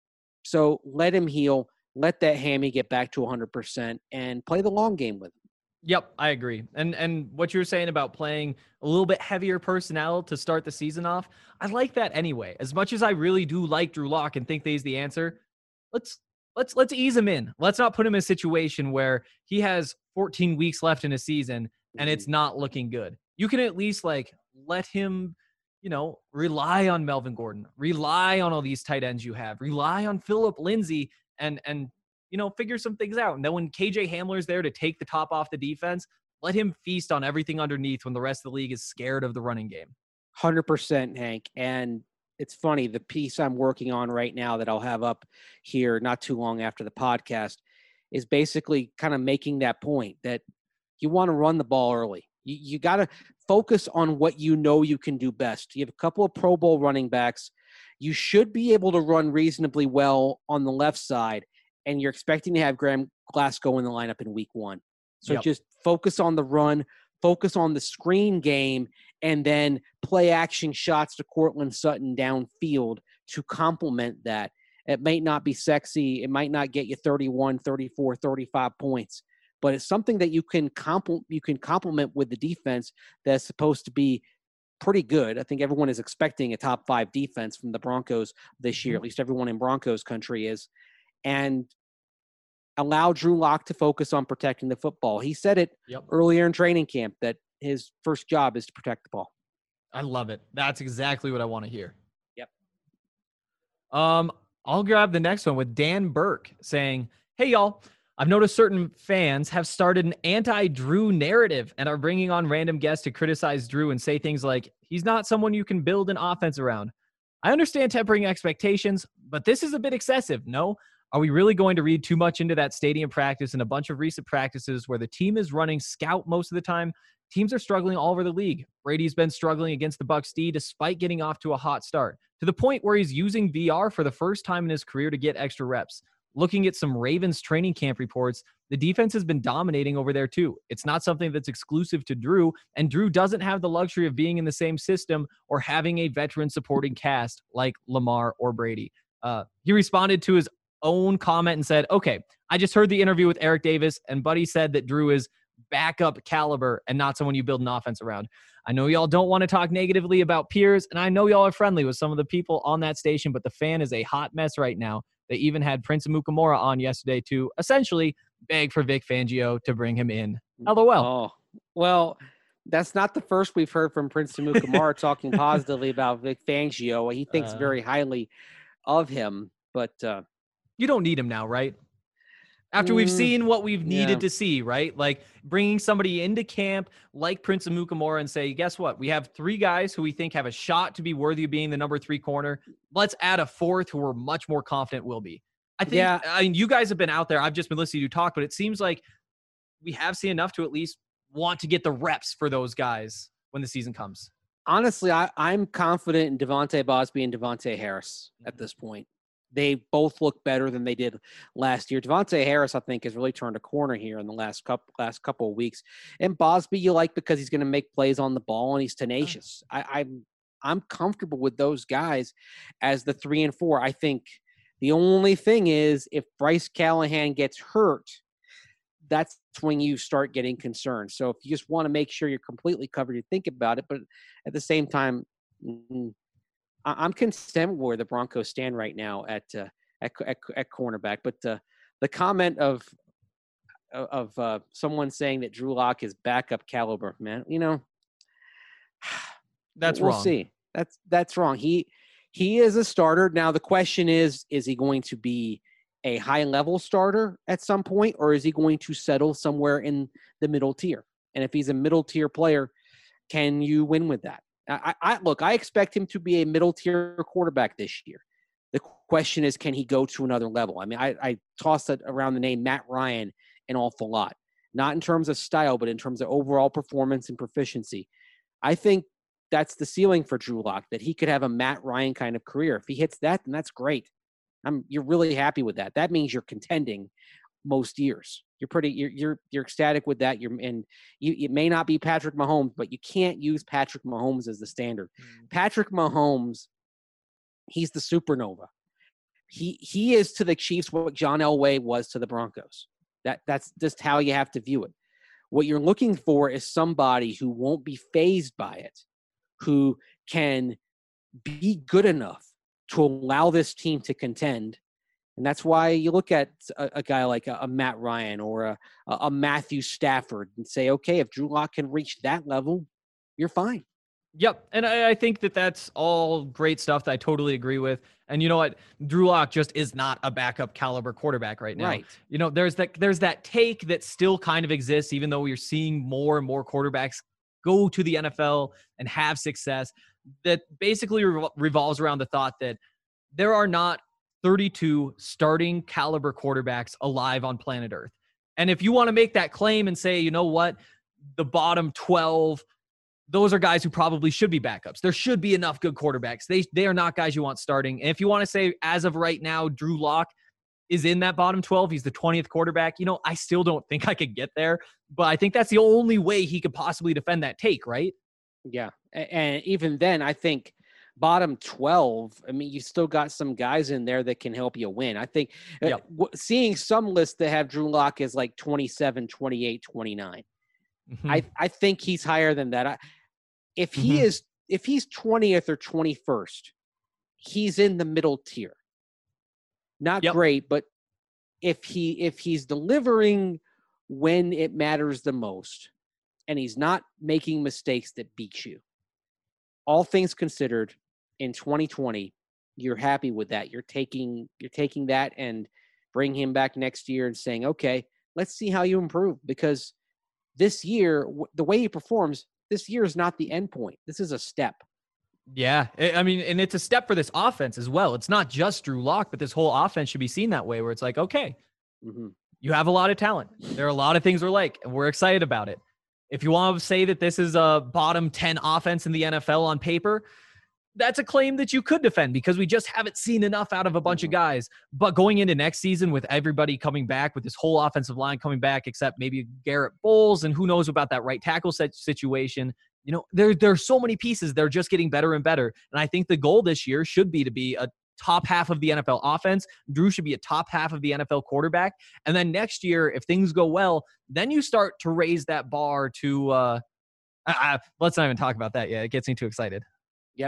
So let him heal. Let that hammy get back to one hundred percent and play the long game with him. Yep, I agree. And and what you were saying about playing a little bit heavier personnel to start the season off, I like that anyway. As much as I really do like Drew Lock and think that he's the answer, let's let's let's ease him in. Let's not put him in a situation where he has fourteen weeks left in a season and it's not looking good. You can at least like let him, you know, rely on Melvin Gordon, rely on all these tight ends you have, rely on Phillip Lindsay and and you know, figure some things out. And then when K J Hamler's there to take the top off the defense, let him feast on everything underneath when the rest of the league is scared of the running game. one hundred percent, Hank. And it's funny, the piece I'm working on right now that I'll have up here not too long after the podcast is basically kind of making that point that you want to run the ball early. You, you got to focus on what you know you can do best. You have a couple of Pro Bowl running backs. You should be able to run reasonably well on the left side, and you're expecting to have Graham Glasgow in the lineup in week one. So yep. just focus on the run, focus on the screen game, and then play action shots to Courtland Sutton downfield to complement that. It might not be sexy. It might not get you thirty-one, thirty-four, thirty-five points, but it's something that you can compl- you can complement with the defense that's supposed to be pretty good. I think everyone is expecting a top five defense from the Broncos this year. Mm-hmm. At least everyone in Broncos country is. And allow Drew Lock to focus on protecting the football. He said it yep. earlier in training camp that his first job is to protect the ball. I love it. That's exactly what I want to hear. Yep. Um, I'll grab the next one with Dan Burke saying, hey, y'all, I've noticed certain fans have started an anti-Drew narrative and are bringing on random guests to criticize Drew and say things like, he's not someone you can build an offense around. I understand tempering expectations, but this is a bit excessive, no? Are we really going to read too much into that stadium practice and a bunch of recent practices where the team is running scout most of the time? teams are struggling all over the league. Brady's been struggling against the Bucs D despite getting off to a hot start, to the point where he's using V R for the first time in his career to get extra reps. Looking at some Ravens training camp reports, the defense has been dominating over there too. It's not something that's exclusive to Drew, and Drew doesn't have the luxury of being in the same system or having a veteran supporting cast like Lamar or Brady. Uh, he responded to his own comment and said, okay, I just heard the interview with Eric Davis, and Buddy said that Drew is backup caliber and not someone you build an offense around. I know y'all don't want to talk negatively about peers, and I know y'all are friendly with some of the people on that station, but the fan is a hot mess right now. They even had Prince Amukamara on yesterday to essentially beg for Vic Fangio to bring him in. LOL. Oh, well, that's not the first we've heard from Prince Amukamara talking positively about Vic Fangio. He thinks Uh, very highly of him, but uh, You don't need him now, right? After we've Mm, seen what we've needed yeah. to see, right? Like bringing somebody into camp like Prince Amukamara and say, guess what? We have three guys who we think have a shot to be worthy of being the number three corner. Let's add a fourth who we're much more confident will be. I think, Yeah. I mean, you guys have been out there. I've just been listening to you talk, but it seems like we have seen enough to at least want to get the reps for those guys when the season comes. honestly, I, I'm confident in Devontae Bosby and Devontae Harris at this point. They both look better than they did last year. Devontae Harris, I think, has really turned a corner here in the last couple last couple of weeks. And Bosby, you like because he's going to make plays on the ball and he's tenacious. I, I'm I'm comfortable with those guys as the three and four. I think the only thing is if Bryce Callahan gets hurt, that's when you start getting concerned. So if you just want to make sure you're completely covered, you think about it. But at the same time, mm, I- I'm content where the Broncos stand right now at uh, at, at at cornerback. But uh, the comment of of uh, someone saying that Drew Lock is backup caliber, man, you know, That's we'll wrong. see. That's that's wrong. He he is a starter. Now the question is, is he going to be a high level starter at some point, or is he going to settle somewhere in the middle tier? And if he's a middle tier player, can you win with that? I, I look, I expect him to be a middle tier quarterback this year. The question is, can he go to another level? I mean, I, I tossed it around the name Matt Ryan an awful lot, not in terms of style, but in terms of overall performance and proficiency. I think that's the ceiling for Drew Lock, that he could have a Matt Ryan kind of career. If he hits that, then that's great. I'm, you're really happy with that. That means you're contending most years. You're pretty, you're, you're, you're ecstatic with that. You're, and you, it may not be Patrick Mahomes, but you can't use Patrick Mahomes as the standard. Mm-hmm. Patrick Mahomes, he's the supernova. He, he is to the Chiefs what John Elway was to the Broncos. That, that's just how you have to view it. What you're looking for is somebody who won't be fazed by it, who can be good enough to allow this team to contend. And that's why you look at a, a guy like a, a Matt Ryan or a, a Matthew Stafford and say, okay, if Drew Lock can reach that level, you're fine. Yep. And I, I think that that's all great stuff that I totally agree with. And you know what? Drew Lock just is not a backup caliber quarterback right now. Right. You know, there's that, there's that take that still kind of exists, even though we're seeing more and more quarterbacks go to the N F L and have success, that basically revol- revolves around the thought that there are not thirty-two starting caliber quarterbacks alive on planet Earth. And if you want to make that claim and say, you know what, the bottom twelve, those are guys who probably should be backups. There should be enough good quarterbacks. They they are not guys you want starting. And if you want to say, as of right now, Drew Lock is in that bottom twelve, he's the twentieth quarterback, you know, I still don't think I could get there. But I think that's the only way he could possibly defend that take, right? Yeah. And even then, I think bottom twelve, I mean, you still got some guys in there that can help you win. I think Yep. uh, w- seeing some lists that have Drew Lock as like twenty-seven, twenty-eight, twenty-nine. Mm-hmm. I, I think he's higher than that. I, if he Mhm. is, if he's twentieth or twenty-first, he's in the middle tier. Not Yep. great, but if he if he's delivering when it matters the most, and he's not making mistakes that beat you, all things considered, in twenty twenty, you're happy with that. You're taking you're taking that and bring him back next year and saying, okay, let's see how you improve, because this year, w- the way he performs, this year is not the end point. This is a step. Yeah. I I mean, and it's a step for this offense as well. It's not just Drew Lock, but this whole offense should be seen that way, where it's like, okay, Mm-hmm. you have a lot of talent. There are a lot of things we're like, and we're excited about it. If you want to say that this is a bottom ten offense in the N F L on paper, that's a claim that you could defend because we just haven't seen enough out of a bunch mm-hmm. of guys. But going into next season with everybody coming back, with this whole offensive line coming back, except maybe Garrett Bowles, and who knows about that right tackle situation, you know, there, there are so many pieces. They're just getting better and better. And I think the goal this year should be to be a top half of the N F L offense. Drew should be a top half of the N F L quarterback. And then next year, if things go well, then you start to raise that bar to uh, uh, let's not even talk about that yet. It gets me too excited. Yep.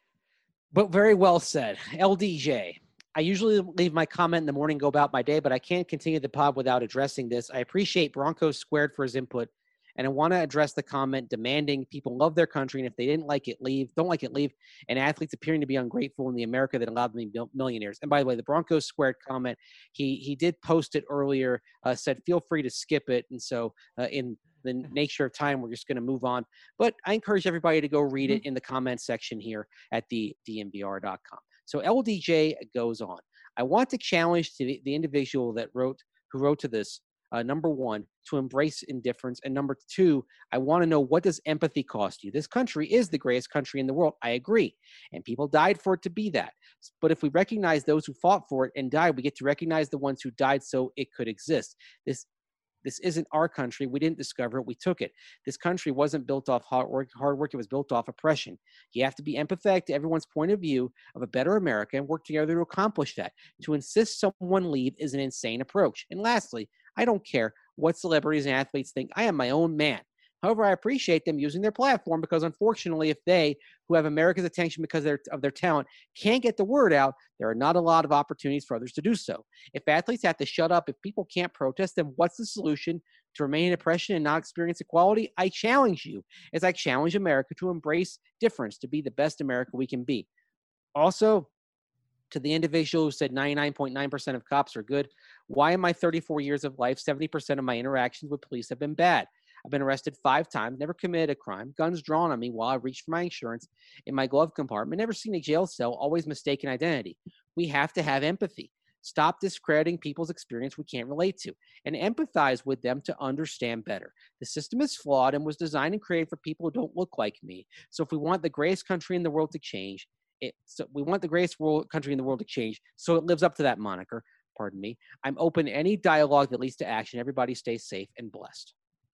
But very well said. L D J, I usually leave my comment in the morning, go about my day, but I can't continue the pod without addressing this. I appreciate Broncos Squared for his input, and I want to address the comment demanding people love their country, and if they didn't like it, leave. Don't like it, leave. And athletes appearing to be ungrateful in the America that allowed them to be millionaires. And by the way, the Broncos Squared comment, he he did post it earlier, uh, said feel free to skip it. And so uh, in the nature of time, we're just going to move on. But I encourage everybody to go read it in the comments section here at the D N V R dot com. So L D J goes on. I want to challenge to the, the individual that wrote, who wrote to this, uh, number one, to embrace indifference. And number two, I want to know, what does empathy cost you? This country is the greatest country in the world. I agree. And people died for it to be that. But if we recognize those who fought for it and died, we get to recognize the ones who died so it could exist. This This isn't our country. We didn't discover it. We took it. This country wasn't built off hard work. Hard work. It was built off oppression. You have to be empathetic to everyone's point of view of a better America and work together to accomplish that. To insist someone leave is an insane approach. And lastly, I don't care what celebrities and athletes think. I am my own man. However, I appreciate them using their platform because, unfortunately, if they, who have America's attention because of their, of their talent, can't get the word out, there are not a lot of opportunities for others to do so. If athletes have to shut up, if people can't protest, then what's the solution to remain in oppression and not experience equality? I challenge you, as I challenge America, to embrace difference, to be the best America we can be. Also, to the individual who said ninety-nine point nine percent of cops are good, why in my thirty-four years of life, seventy percent of my interactions with police have been bad? I've been arrested five times, never committed a crime, guns drawn on me while I reached for my insurance in my glove compartment, never seen a jail cell, always mistaken identity. We have to have empathy. Stop discrediting people's experience we can't relate to, and empathize with them to understand better. The system is flawed and was designed and created for people who don't look like me. So if we want the greatest country in the world to change, it, so we want the greatest world, country in the world to change, so it lives up to that moniker, pardon me. I'm open to any dialogue that leads to action. Everybody stay safe and blessed.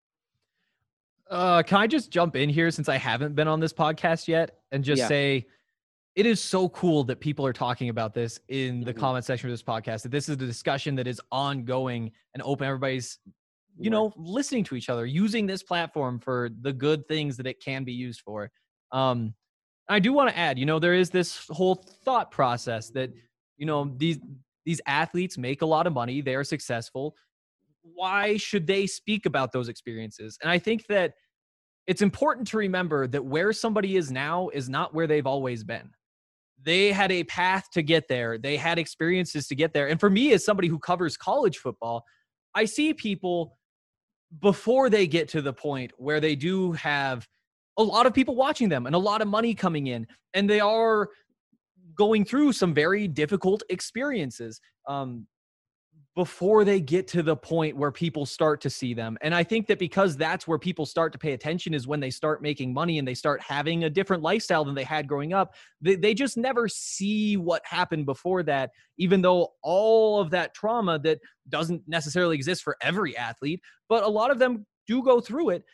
Uh, can I just jump in here since I haven't been on this podcast yet and just yeah. say it is so cool that people are talking about this in the mm-hmm. comment section of this podcast, that this is a discussion that is ongoing and open. Everybody's, you right. know, listening to each other, using this platform for the good things that it can be used for. Um, I do want to add, you know, there is this whole thought process that, you know, these, these athletes make a lot of money. They are successful. Why should they speak about those experiences? And I think that it's important to remember that where somebody is now is not where they've always been. They had a path to get there. They had experiences to get there. And for me, as somebody who covers college football, I see people before they get to the point where they do have a lot of people watching them and a lot of money coming in, and they are going through some very difficult experiences. Um, before they get to the point where people start to see them. And I think that because that's where people start to pay attention is when they start making money and they start having a different lifestyle than they had growing up. They, they just never see what happened before that, even though all of that trauma that doesn't necessarily exist for every athlete, but a lot of them do go through it.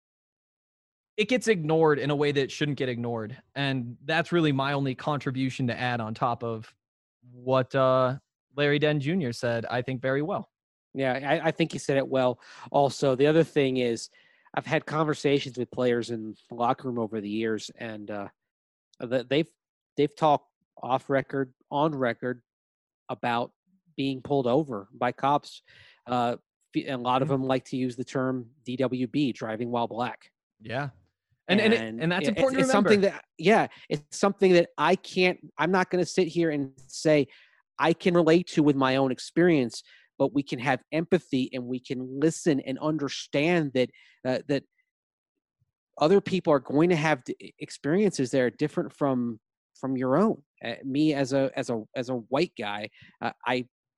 It gets ignored in a way that shouldn't get ignored. And that's really my only contribution to add on top of what, uh, Larry Dent Junior said, I think, very well. Yeah, I, I think he said it well. Also, the other thing is I've had conversations with players in the locker room over the years, and uh, they've they've talked off record, on record about being pulled over by cops. Uh, and a lot of them like to use the term D W B, driving while black. Yeah. And and, and, it, and that's it, important it's, to remember. It's something that, yeah, it's something that I can't, I'm not going to sit here and say, I can relate to with my own experience, but we can have empathy and we can listen and understand that uh, that other people are going to have experiences that are different from from your own. Uh, me as a as a as a white guy, uh, I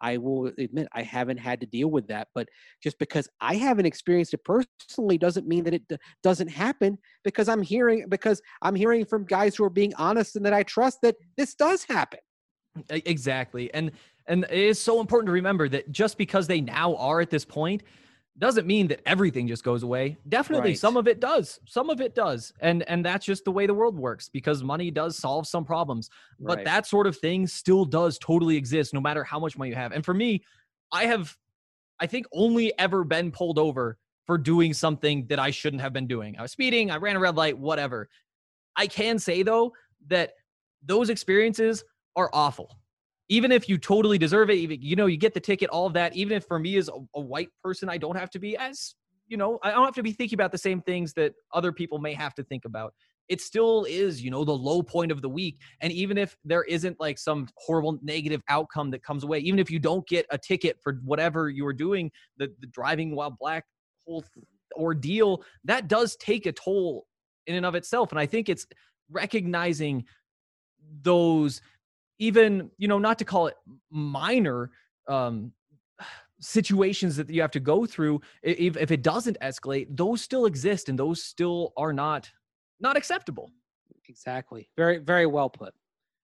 I will admit I haven't had to deal with that, but just because I haven't experienced it personally doesn't mean that it d- doesn't happen, because I'm hearing because I'm hearing from guys who are being honest and that I trust that this does happen. E- Exactly. And and it is so important to remember that just because they now are at this point doesn't mean that everything just goes away. Definitely Right. some of it does. Some of it does. And and that's just the way the world works, because money does solve some problems. But Right. that sort of thing still does totally exist no matter how much money you have. And for me, I have I think only ever been pulled over for doing something that I shouldn't have been doing. I was speeding, I ran a red light, whatever. I can say though that those experiences are awful. Even if you totally deserve it, even, you know, you get the ticket, all of that. Even if for me as a, a white person, I don't have to be as, you know, I don't have to be thinking about the same things that other people may have to think about. It still is, you know, the low point of the week. And even if there isn't like some horrible negative outcome that comes away, even if you don't get a ticket for whatever you were doing, the, the driving while black whole ordeal, that does take a toll in and of itself. And I think it's recognizing those, even, you know, not to call it minor um, situations that you have to go through, if, if it doesn't escalate, those still exist and those still are not not acceptable. Exactly. Very, very well put.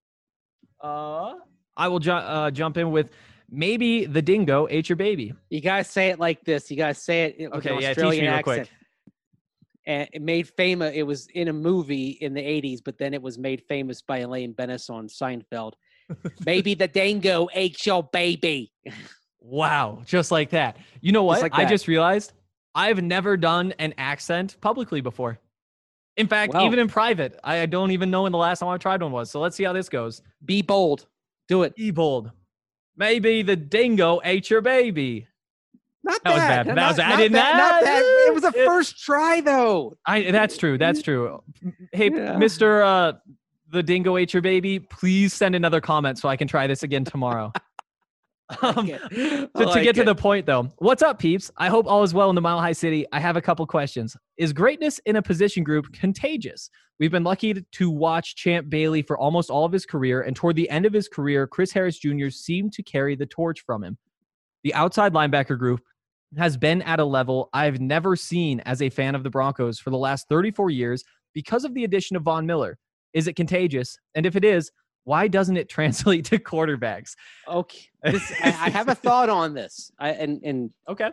Uh, I will ju- uh, jump in with maybe the dingo ate your baby. You guys say it like this. You guys say it with Okay, an yeah, teach Australian me real accent. quick. And it made famous. It was in a movie in the eighties, but then it was made famous by Elaine Bennis on Seinfeld. Maybe the dingo ate your baby. Wow, just like that. You know what? Just like I that. just realized I've never done an accent publicly before. In fact, Well- even in private, I don't even know when the last time I tried one was. So let's see how this goes. Be bold. Do it. Be bold. Maybe the dingo ate your baby. Not That was that. bad. Not, That was- I not did that. not- Not that. It was a it- first try, though. I that's true. That's true. Hey, Yeah. Mister Uh, the dingo ate your baby. Please send another comment so I can try this again tomorrow. Um, Okay. to, I to like get to it. the point, though, what's up, peeps? I hope all is well in the Mile High City. I have a couple questions. Is greatness in a position group contagious? We've been lucky to, to watch Champ Bailey for almost all of his career, and toward the end of his career, Chris Harris Junior seemed to carry the torch from him. The outside linebacker group has been at a level I've never seen as a fan of the Broncos for the last thirty-four years because of the addition of Von Miller. Is it contagious? And if it is, why doesn't it translate to quarterbacks? Okay. This, I, I have a thought on this. I, and and Okay.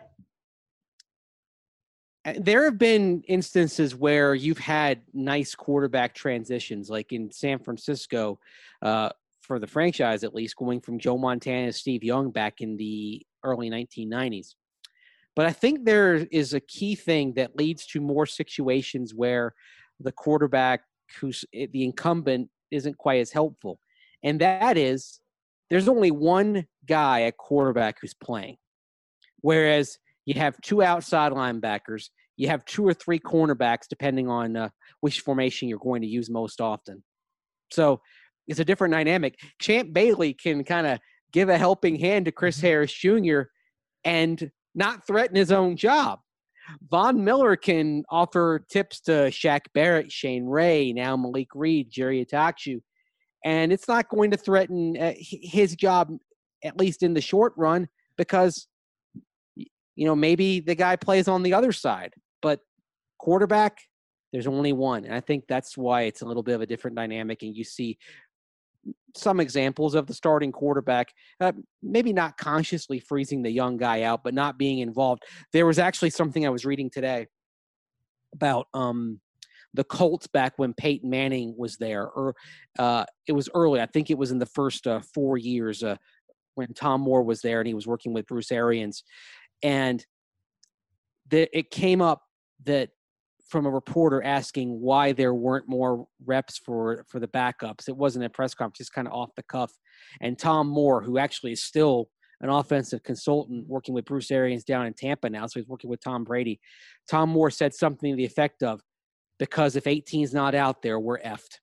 Uh, there have been instances where you've had nice quarterback transitions, like in San Francisco, uh, for the franchise at least, going from Joe Montana to Steve Young back in the early nineteen nineties. But I think there is a key thing that leads to more situations where the quarterback, who's the incumbent, isn't quite as helpful. And that is, there's only one guy at quarterback who's playing. Whereas you have two outside linebackers, you have two or three cornerbacks, depending on uh, which formation you're going to use most often. So it's a different dynamic. Champ Bailey can kind of give a helping hand to Chris Harris Junior and not threaten his own job. Von Miller can offer tips to Shaq Barrett, Shane Ray, now Malik Reed, Jerry Atakju, and it's not going to threaten uh, his job, at least in the short run, because, you know, maybe the guy plays on the other side. But quarterback, there's only one. And I think that's why it's a little bit of a different dynamic. And you see some examples of the starting quarterback, uh, maybe not consciously freezing the young guy out, but not being involved. There was actually something I was reading today about um, the Colts back when Peyton Manning was there, or uh, it was early. I think it was in the first uh, four years uh, when Tom Moore was there and he was working with Bruce Arians. And the, it came up that from a reporter asking why there weren't more reps for, for the backups. It wasn't a press conference, just kind of off the cuff. And Tom Moore, who actually is still an offensive consultant working with Bruce Arians down in Tampa now, so he's working with Tom Brady. Tom Moore said something to the effect of, because if eighteen's not out there, we're effed.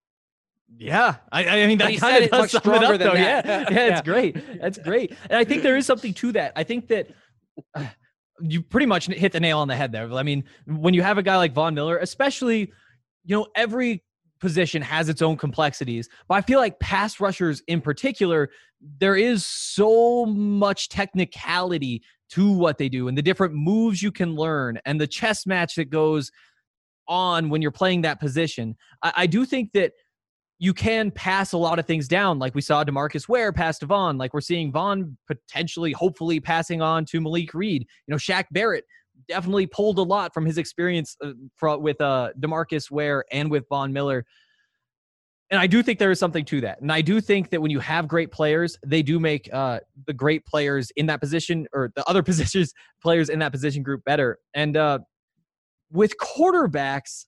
Yeah, I, I mean, But that he kind said of it does much sum it stronger up, than though. that. Yeah, yeah, Yeah. it's great. That's great. And I think there is something to that. I think that uh, you pretty much hit the nail on the head there. I mean, when you have a guy like Von Miller, especially, you know, every position has its own complexities, but I feel like pass rushers in particular, there is so much technicality to what they do and the different moves you can learn and the chess match that goes on when you're playing that position. I, I do think that you can pass a lot of things down, like we saw DeMarcus Ware pass to Vaughn, like we're seeing Vaughn potentially, hopefully passing on to Malik Reed. You know, Shaq Barrett definitely pulled a lot from his experience uh, for, with uh, DeMarcus Ware and with Von Miller. And I do think there is something to that. And I do think that when you have great players, they do make uh, the great players in that position or the other positions players in that position group better. And uh, with quarterbacks,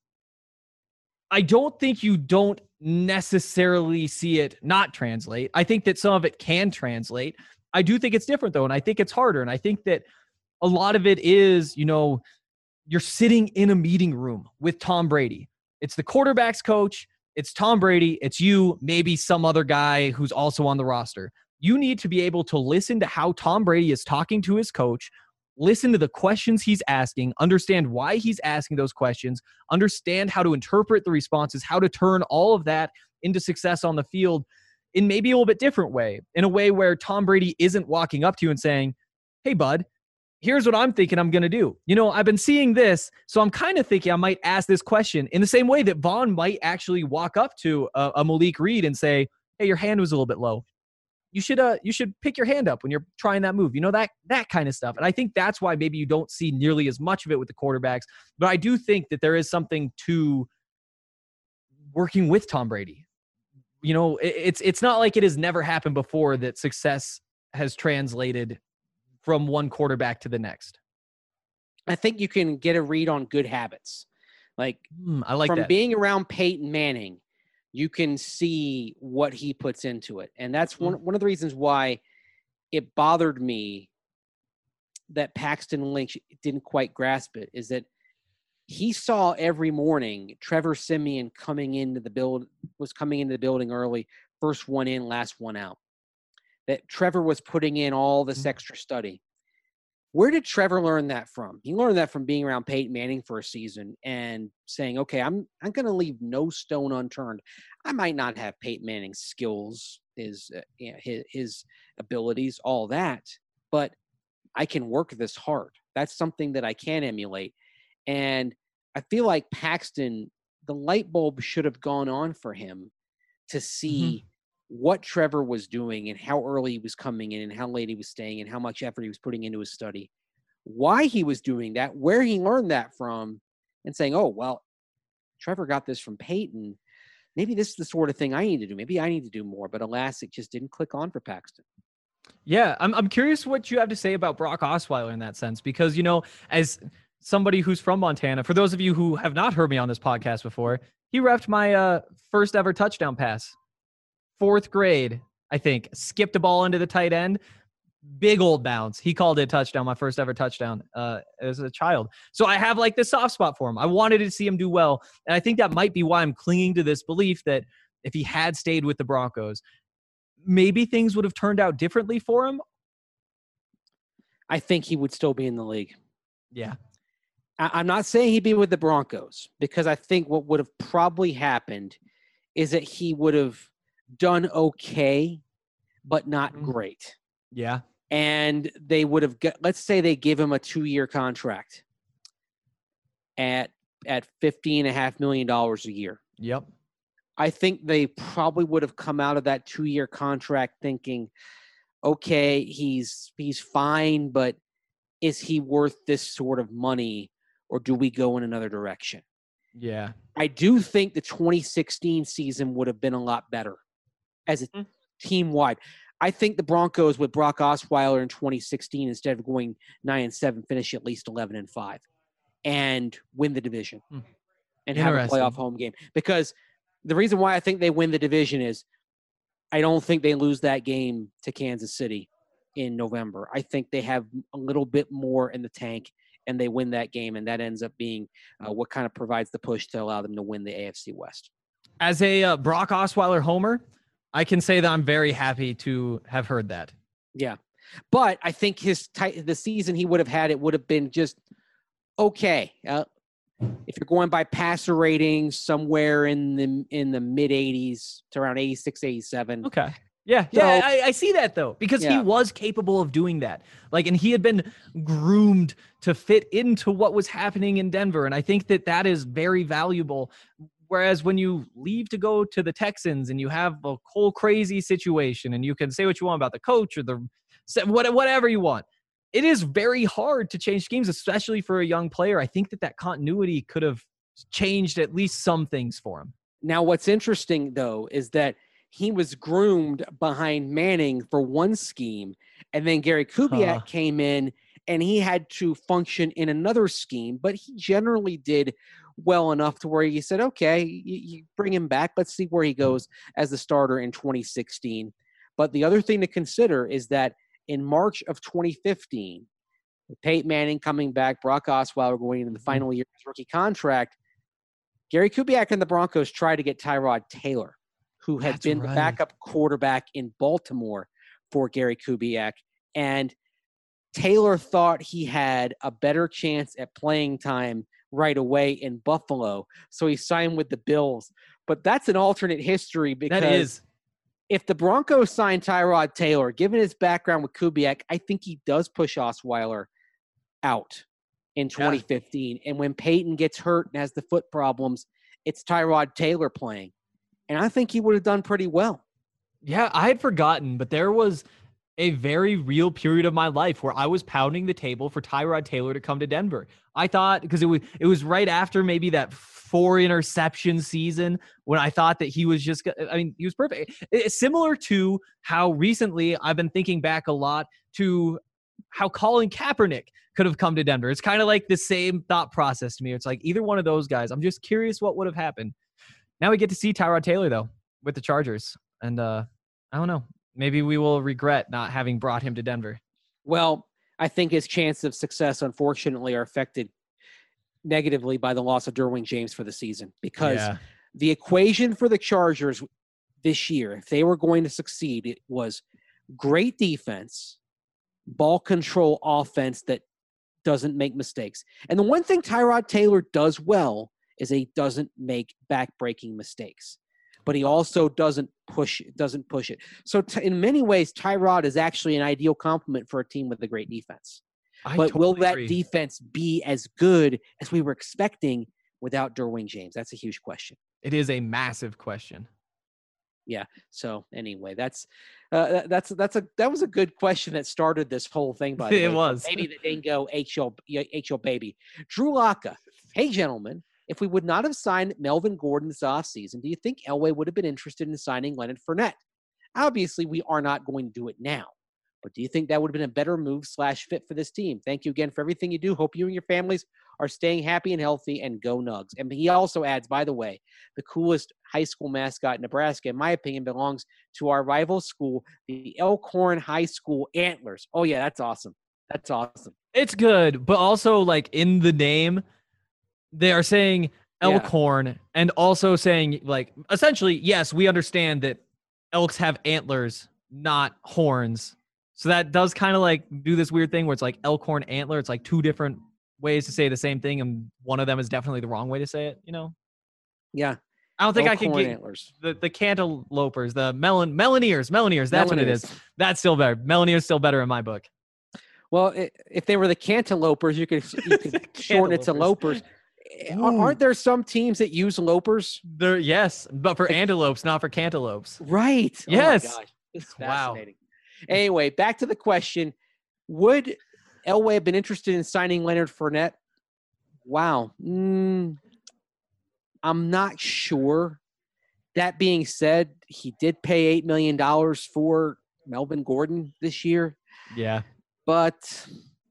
I don't think you don't necessarily see it not translate. I think that some of it can translate. I do think it's different though. And I think it's harder. And I think that a lot of it is, you know, you're sitting in a meeting room with Tom Brady. It's the quarterback's coach. It's Tom Brady. It's you, maybe some other guy who's also on the roster. You need to be able to listen to how Tom Brady is talking to his coach, listen to the questions he's asking, understand why he's asking those questions, understand how to interpret the responses, how to turn all of that into success on the field in maybe a little bit different way, in a way where Tom Brady isn't walking up to you and saying, hey, bud, here's what I'm thinking I'm going to do. You know, I've been seeing this, so I'm kind of thinking I might ask this question in the same way that Vaughn might actually walk up to a, a Malik Reed and say, hey, your hand was a little bit low. You should uh you should pick your hand up when you're trying that move. You know, that that kind of stuff. And I think that's why maybe you don't see nearly as much of it with the quarterbacks. But I do think that there is something to working with Tom Brady. You know, it, it's it's not like it has never happened before that success has translated from one quarterback to the next. I think you can get a read on good habits. Like, mm, I like from that. being around Peyton Manning, you can see what he puts into it. And that's one, one of the reasons why it bothered me that Paxton Lynch didn't quite grasp it, is that he saw every morning Trevor Siemian coming into the build was coming into the building early, first one in, last one out. That Trevor was putting in all this extra study. Where did Trevor learn that from? He learned that from being around Peyton Manning for a season and saying, okay, I'm I'm going to leave no stone unturned. I might not have Peyton Manning's skills, his, uh, you know, his, his abilities, all that, but I can work this hard. That's something that I can emulate. And I feel like Paxton, the light bulb should have gone on for him to see mm-hmm. what Trevor was doing and how early he was coming in and how late he was staying and how much effort he was putting into his study, why he was doing that, where he learned that from, and saying, oh, well, Trevor got this from Peyton. Maybe this is the sort of thing I need to do. Maybe I need to do more. But alas, it just didn't click on for Paxton. Yeah, I'm I'm curious what you have to say about Brock Osweiler in that sense, because, you know, as somebody who's from Montana, for those of you who have not heard me on this podcast before, he reffed my uh, first ever touchdown pass. Fourth grade, I think, skipped a ball into the tight end. Big old bounce. He called it a touchdown, my first ever touchdown uh, as a child. So I have like this soft spot for him. I wanted to see him do well. And I think that might be why I'm clinging to this belief that if he had stayed with the Broncos, maybe things would have turned out differently for him. I think he would still be in the league. Yeah. I- I'm not saying he'd be with the Broncos, because I think what would have probably happened is that he would have done okay, but not mm-hmm. great. Yeah. And they would have got, let's say they give him a two-year contract at at fifteen and a half million dollars a year. Yep. I think they probably would have come out of that two-year contract thinking, okay, he's he's fine, but is he worth this sort of money, or do we go in another direction? Yeah. I do think the twenty sixteen season would have been a lot better as a mm. team-wide. I think the Broncos with Brock Osweiler in twenty sixteen, instead of going nine and seven, finish at least eleven and five and win the division mm. and have a playoff home game. Because the reason why I think they win the division is I don't think they lose that game to Kansas City in November. I think they have a little bit more in the tank and they win that game, and that ends up being uh, what kind of provides the push to allow them to win the A F C West. As a uh, Brock Osweiler homer, I can say that I'm very happy to have heard that. Yeah. But I think his t- the season he would have had, it would have been just okay. Uh, if you're going by passer ratings, somewhere in the in the mid eighties to around eighty-six, eighty-seven. Okay. Yeah, So- yeah, I, I see that though, because he Yeah. was capable of doing that. Like, and he had been groomed to fit into what was happening in Denver, and I think that that is very valuable. Whereas when you leave to go to the Texans and you have a whole crazy situation, and you can say what you want about the coach or the what- whatever you want, it is very hard to change schemes, especially for a young player. I think that that continuity could have changed at least some things for him. Now, what's interesting, though, is that he was groomed behind Manning for one scheme, and then Gary Kubiak Huh. came in, and he had to function in another scheme, but he generally did well enough to where you said, okay, you, you bring him back. Let's see where he goes as the starter in twenty sixteen. But the other thing to consider is that in March of twenty fifteen, with Peyton Manning coming back, Brock Osweiler going into the final year of his rookie contract, Gary Kubiak and the Broncos tried to get Tyrod Taylor, who had That's been right. the backup quarterback in Baltimore for Gary Kubiak. And Taylor thought he had a better chance at playing time right away in Buffalo, so he signed with the Bills. But that's an alternate history, because That is. if the Broncos sign Tyrod Taylor, given his background with Kubiak, I think he does push Osweiler out in twenty fifteen. And when Peyton gets hurt and has the foot problems, it's Tyrod Taylor playing. And I think he would have done pretty well. Yeah, I had forgotten, but there was a very real period of my life where I was pounding the table for Tyrod Taylor to come to Denver. I thought, because it was it was right after maybe that four interception season when I thought that he was just, I mean, he was perfect. It's similar to how recently I've been thinking back a lot to how Colin Kaepernick could have come to Denver. It's kind of like the same thought process to me. It's like either one of those guys. I'm just curious what would have happened. Now we get to see Tyrod Taylor, though, with the Chargers. And uh, I don't know. Maybe we will regret not having brought him to Denver. Well, I think his chances of success, unfortunately, are affected negatively by the loss of Derwin James for the season, because Yeah. the equation for the Chargers this year, if they were going to succeed, it was great defense, ball control offense that doesn't make mistakes. And the one thing Tyrod Taylor does well is he doesn't make back-breaking mistakes, but he also doesn't push it, doesn't push it. So t- in many ways, Tyrod is actually an ideal complement for a team with a great defense. I But will totally that agree. defense be as good as we were expecting without Derwin James? That's a huge question. It is a massive question. Yeah. So anyway, that's uh, that- that's that's a that was a good question that started this whole thing. By the way, It from was. Maybe the dingo H L H L baby Drew Locka. Hey, gentlemen, if we would not have signed Melvin Gordon this offseason, do you think Elway would have been interested in signing Leonard Fournette? Obviously, we are not going to do it now. But do you think that would have been a better move slash fit for this team? Thank you again for everything you do. Hope you and your families are staying happy and healthy, and go Nugs. And he also adds, by the way, the coolest high school mascot in Nebraska, in my opinion, belongs to our rival school, the Elkhorn High School Antlers. Oh, yeah, that's awesome. That's awesome. It's good, but also like in the name, they are saying Yeah. Elkhorn and also saying like essentially, yes, we understand that elks have antlers, not horns. So that does kind of like do this weird thing where it's like Elkhorn antler. It's like two different ways to say the same thing, and one of them is definitely the wrong way to say it. You know, Yeah. I don't think I could Elkhorn get Antlers. the the cantilopers, the melon Melineers, Melineers. That's what it is. Melineers. That's still better. Melineers still better in my book. Well, i- if they were the Cantilopers, you could you could shorten it to Cantilopers. Lopers. Ar- Aren't there some teams that use Lopers? There, yes, but for antelopes, not for cantaloupes. Right. Yes. Oh my gosh. This is Wow. fascinating. Anyway, back to the question. Would Elway have been interested in signing Leonard Fournette? Wow. Mm, I'm not sure. That being said, he did pay eight million dollars for Melvin Gordon this year, Yeah. but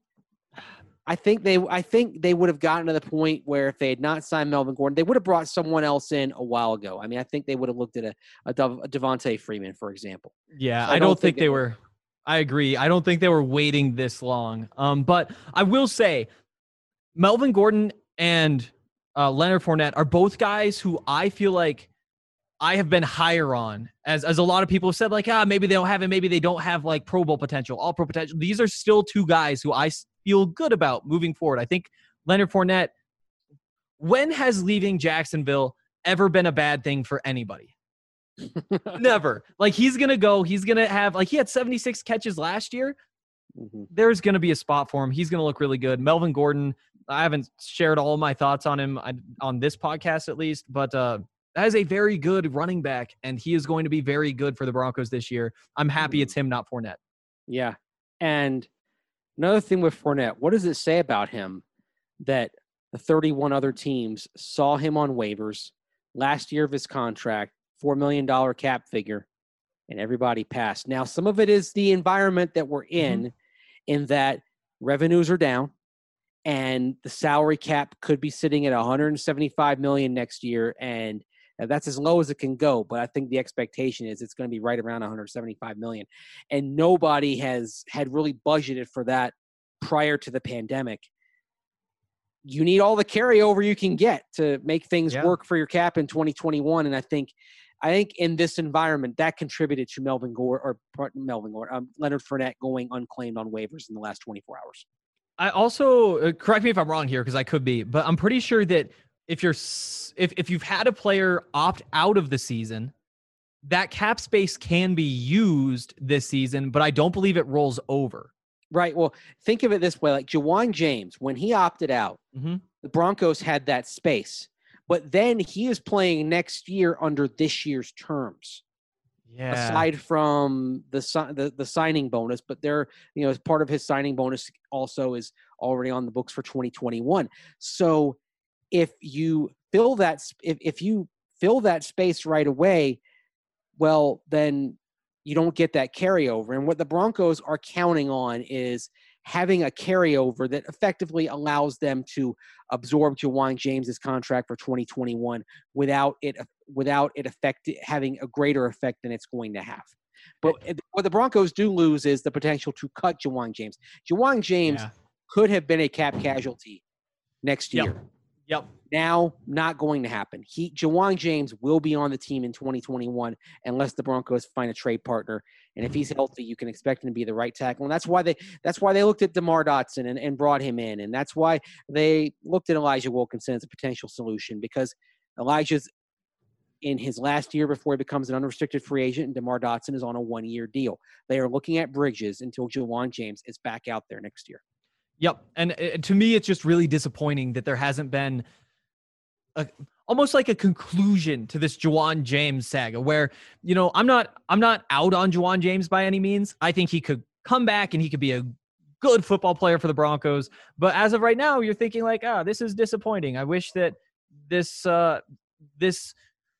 I think they I think they would have gotten to the point where if they had not signed Melvin Gordon, they would have brought someone else in a while ago. I mean, I think they would have looked at a, a, Dev- a Devontae Freeman, for example. Yeah, So I, don't think, they were. I agree. I don't think they were waiting this long. Um, but I will say, Melvin Gordon and uh, Leonard Fournette are both guys who I feel like I have been higher on, as as a lot of people have said, like, ah, maybe they don't have it, maybe they don't have like Pro Bowl potential, all Pro potential. These are still two guys who I s- feel good about moving forward. I think Leonard Fournette when has leaving Jacksonville ever been a bad thing for anybody? Never. Like, he's going to go, he's going to have, like, he had seventy-six catches last year. Mm-hmm. There's going to be a spot for him. He's going to look really good. Melvin Gordon, I haven't shared all of my thoughts on him on this podcast at least, but uh, that is a very good running back, and he is going to be very good for the Broncos this year. I'm happy mm-hmm. it's him, not Fournette. Yeah. And another thing with Fournette, what does it say about him that the thirty-one other teams saw him on waivers last year of his contract, four million dollars cap figure, and everybody passed? Now, some of it is the environment that we're in, mm-hmm. in that revenues are down and the salary cap could be sitting at one hundred seventy-five million dollars next year, and that's as low as it can go. But I think the expectation is it's going to be right around one hundred seventy-five million dollars, and nobody has had really budgeted for that prior to the pandemic. You need all the carryover you can get to make things yeah. work for your cap in twenty twenty-one, and I think I think in this environment that contributed to Melvin Gore or Melvin Gore, um, Leonard Fournette going unclaimed on waivers in the last twenty-four hours. I also uh, correct me if I'm wrong here, because I could be, but I'm pretty sure that if you're if if you've had a player opt out of the season, that cap space can be used this season, but I don't believe it rolls over. Right. Well, think of it this way: like Ja'Wuan James, when he opted out, mm-hmm. the Broncos had that space. But then he is playing next year under this year's terms. Yeah. Aside from the, the the signing bonus, but there, you know, as part of his signing bonus also is already on the books for twenty twenty-one. So if you fill that, if if you fill that space right away, well, then you don't get that carryover. And what the Broncos are counting on is having a carryover that effectively allows them to absorb Ja'Wuan James's contract for twenty twenty-one without it without it affect having a greater effect than it's going to have. But what the Broncos do lose is the potential to cut Ja'Wuan James. Ja'Wuan James yeah. could have been a cap casualty next year. Yep. Yep. Now, not going to happen. He Ja'Wuan James will be on the team in twenty twenty-one unless the Broncos find a trade partner. And if he's healthy, you can expect him to be the right tackle. And that's why they that's why they looked at DeMar Dotson and, and brought him in. And that's why they looked at Elijah Wilkinson as a potential solution, because Elijah's in his last year before he becomes an unrestricted free agent, and DeMar Dotson is on a one-year deal. They are looking at bridges until Ja'Wuan James is back out there next year. Yep. And uh, to me, it's just really disappointing that there hasn't been a, almost like a conclusion to this Ja'Wuan James saga where, you know, I'm not, I'm not out on Ja'Wuan James by any means. I think he could come back and he could be a good football player for the Broncos. But as of right now, you're thinking like, ah, oh, this is disappointing. I wish that this, uh, this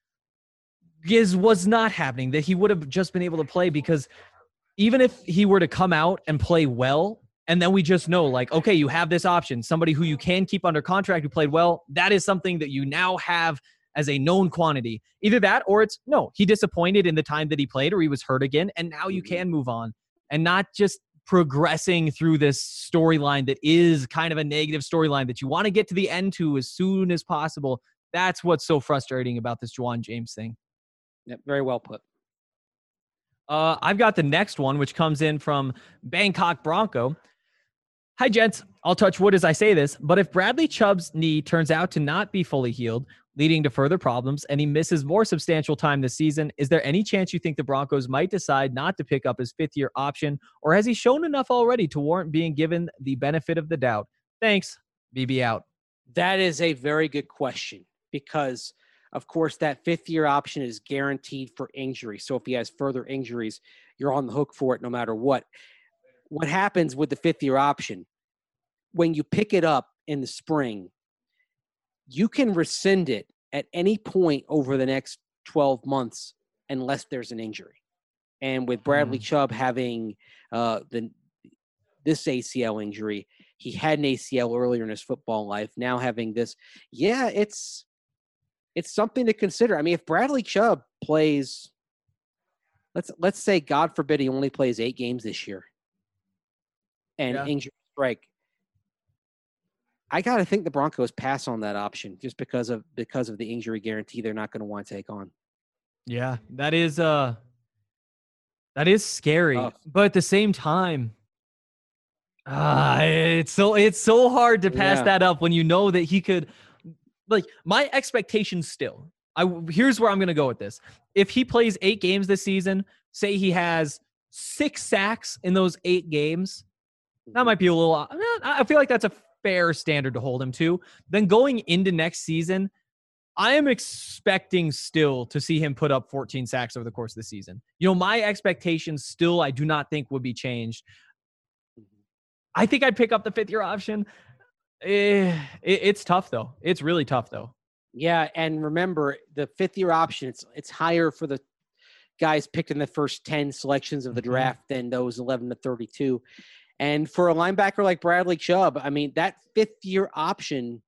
is, was not happening, that he would have just been able to play, because even if he were to come out and play well, and then we just know, like, okay, you have this option, somebody who you can keep under contract who played well. That is something that you now have as a known quantity. Either that, or it's, no, he disappointed in the time that he played, or he was hurt again, and now you can move on. And not just progressing through this storyline that is kind of a negative storyline that you want to get to the end to as soon as possible. That's what's so frustrating about this Ja'Wuan James thing. Yep, very well put. Uh, I've got the next one, which comes in from Bangkok Bronco. Hi, gents. I'll touch wood as I say this, but if Bradley Chubb's knee turns out to not be fully healed, leading to further problems, and he misses more substantial time this season, is there any chance you think the Broncos might decide not to pick up his fifth-year option, or has he shown enough already to warrant being given the benefit of the doubt? Thanks. B B out. That is a very good question, because, of course, that fifth-year option is guaranteed for injury. So if he has further injuries, you're on the hook for it no matter what. What happens with the fifth-year option, when you pick it up in the spring, you can rescind it at any point over the next twelve months unless there's an injury. And with Bradley mm. Chubb having uh, the this A C L injury, he had an A C L earlier in his football life. Now having this, yeah, it's it's something to consider. I mean, if Bradley Chubb plays, let's let's say, God forbid, he only plays eight games this year, and yeah. injury strike, I got to think the Broncos pass on that option just because of because of the injury guarantee they're not going to want to take on. Yeah, that is uh that is scary. Oh. But at the same time, uh, it's so it's so hard to pass yeah. that up when you know that he could like my expectations still. I here's where I'm gonna go with this. If he plays eight games this season, say he has six sacks in those eight games, that might be a little. I feel like that's a fair standard to hold him to. Then going into next season, I am expecting still to see him put up fourteen sacks over the course of the season. You know, my expectations still, I do not think would be changed. I think I'd pick up the fifth year option. Eh, it, it's tough though. It's really tough though. Yeah, and remember the fifth year option. It's it's higher for the guys picked in the first ten selections of the Mm-hmm. draft than those eleven to thirty-two. And for a linebacker like Bradley Chubb, I mean that fifth year option,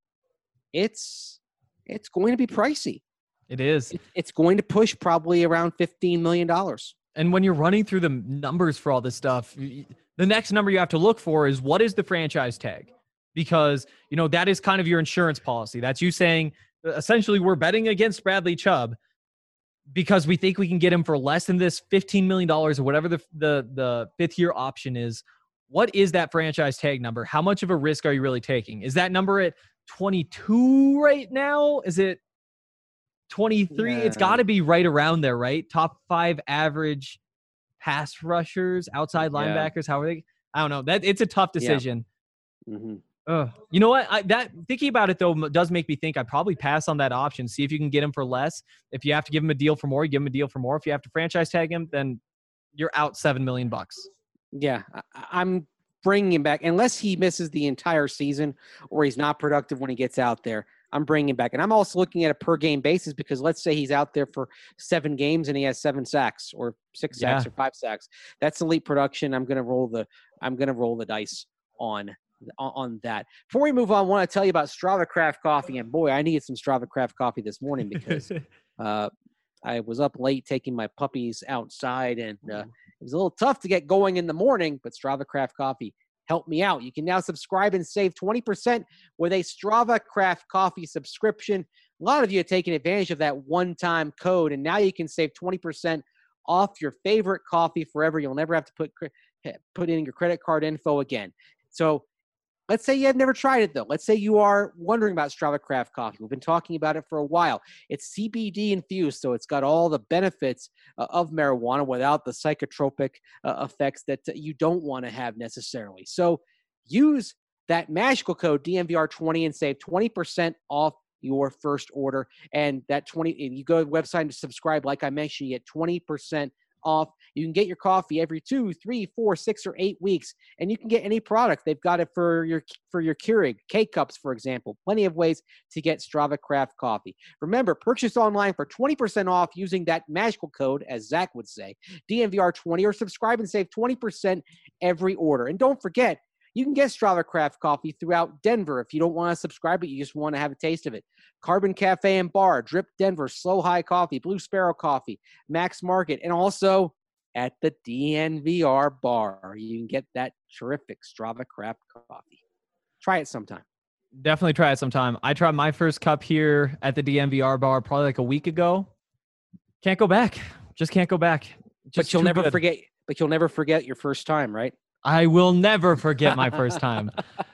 it's it's going to be pricey. It is. It, it's going to push probably around fifteen million dollars. And when you're running through the numbers for all this stuff, the next number you have to look for is what is the franchise tag? Because, you know, that is kind of your insurance policy. That's you saying, essentially, we're betting against Bradley Chubb because we think we can get him for less than this fifteen million dollars or whatever the, the, the fifth year option is. What is that franchise tag number? How much of a risk are you really taking? Is that number at twenty-two right now? Is it twenty-three? Yeah. It's got to be right around there, right? Top five average pass rushers, outside Yeah. linebackers. How are they? I don't know. That it's a tough decision. Mm-hmm. Ugh. You know what? I, that thinking about it though does make me think I'd probably pass on that option. See if you can get him for less. If you have to give him a deal for more, you give him a deal for more. If you have to franchise tag him, then you're out seven million bucks. Yeah, I, I'm bringing him back unless he misses the entire season or he's not productive when he gets out there. I'm bringing him back, and I'm also looking at a per game basis because let's say he's out there for seven games and he has seven sacks or six sacks Yeah. or five sacks. That's elite production. I'm gonna roll the I'm gonna roll the dice on. on that. Before we move on, I want to tell you about Strava Craft Coffee. And boy, I needed some Strava Craft coffee this morning because uh, I was up late taking my puppies outside, and uh, it was a little tough to get going in the morning, but Strava Craft Coffee helped me out. You can now subscribe and save twenty percent with a Strava Craft Coffee subscription. A lot of you are taking advantage of that one-time code, and now you can save twenty percent off your favorite coffee forever. You'll never have to put put in your credit card info again. So let's say you have never tried it, though. Let's say you are wondering about Strava Craft Coffee. We've been talking about it for a while. It's C B D infused, so it's got all the benefits uh, of marijuana without the psychotropic uh, effects that uh, you don't want to have necessarily. So use that magical code D N V R twenty and save twenty percent off your first order. And that twenty, if you go to the website and subscribe, like I mentioned, you get twenty percent off. You can get your coffee every two, three, four, six, or eight weeks, and you can get any product. They've got it for your for your Keurig K-Cups, for example. Plenty of ways to get Strava Craft Coffee. Remember, purchase online for twenty percent off using that magical code, as Zach would say, D N V R twenty, or subscribe and save twenty percent every order. And don't forget, you can get Strava Craft Coffee throughout Denver if you don't want to subscribe, but you just want to have a taste of it. Carbon Cafe and Bar, Drip Denver, Slow High Coffee, Blue Sparrow Coffee, Max Market, and also at the D N V R Bar. You can get that terrific Strava Craft Coffee. Try it sometime. Definitely try it sometime. I tried my first cup here at the D N V R Bar probably like a week ago. Can't go back. Just can't go back. Just but you'll too never good. forget. But you'll never forget your first time, right? I will never forget my first time.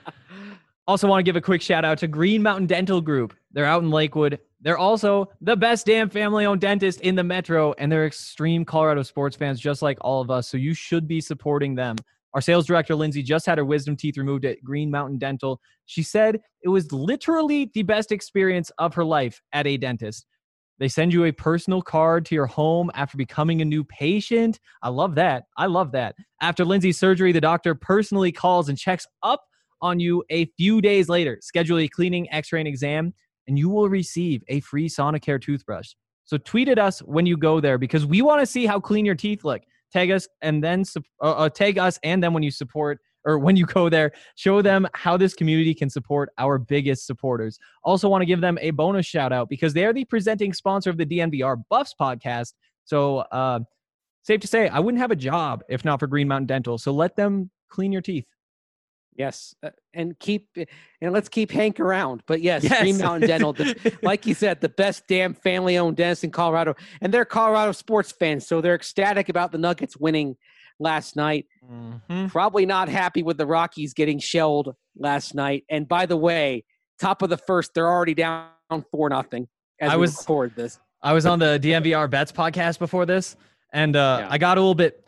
Also want to give a quick shout out to Green Mountain Dental Group. They're out in Lakewood. They're also the best damn family-owned dentist in the metro, and they're extreme Colorado sports fans just like all of us, so you should be supporting them. Our sales director, Lindsay, just had her wisdom teeth removed at Green Mountain Dental. She said it was literally the best experience of her life at a dentist. They send you a personal card to your home after becoming a new patient. I love that. I love that. After Lindsay's surgery, the doctor personally calls and checks up on you a few days later. Schedule a cleaning, x-ray, and exam, and you will receive a free Sonicare toothbrush. So tweet at us when you go there because we want to see how clean your teeth look. Tag us and then uh, uh, tag us and then when you support or when you go there, show them how this community can support our biggest supporters. Also want to give them a bonus shout out because they are the presenting sponsor of the D N V R Buffs podcast. So uh, safe to say, I wouldn't have a job if not for Green Mountain Dental. So let them clean your teeth. Yes, uh, and keep and let's keep Hank around. But yes, Yes. Green Mountain Dental, the, like you said, the best damn family-owned dentist in Colorado, and they're Colorado sports fans, so they're ecstatic about the Nuggets winning last night. Mm-hmm. Probably not happy with the Rockies getting shelled last night. And by the way, top of the first, they're already down four nothing as I we was- record this. I was on the D N V R Bets podcast before this, and uh, Yeah. I got a little bit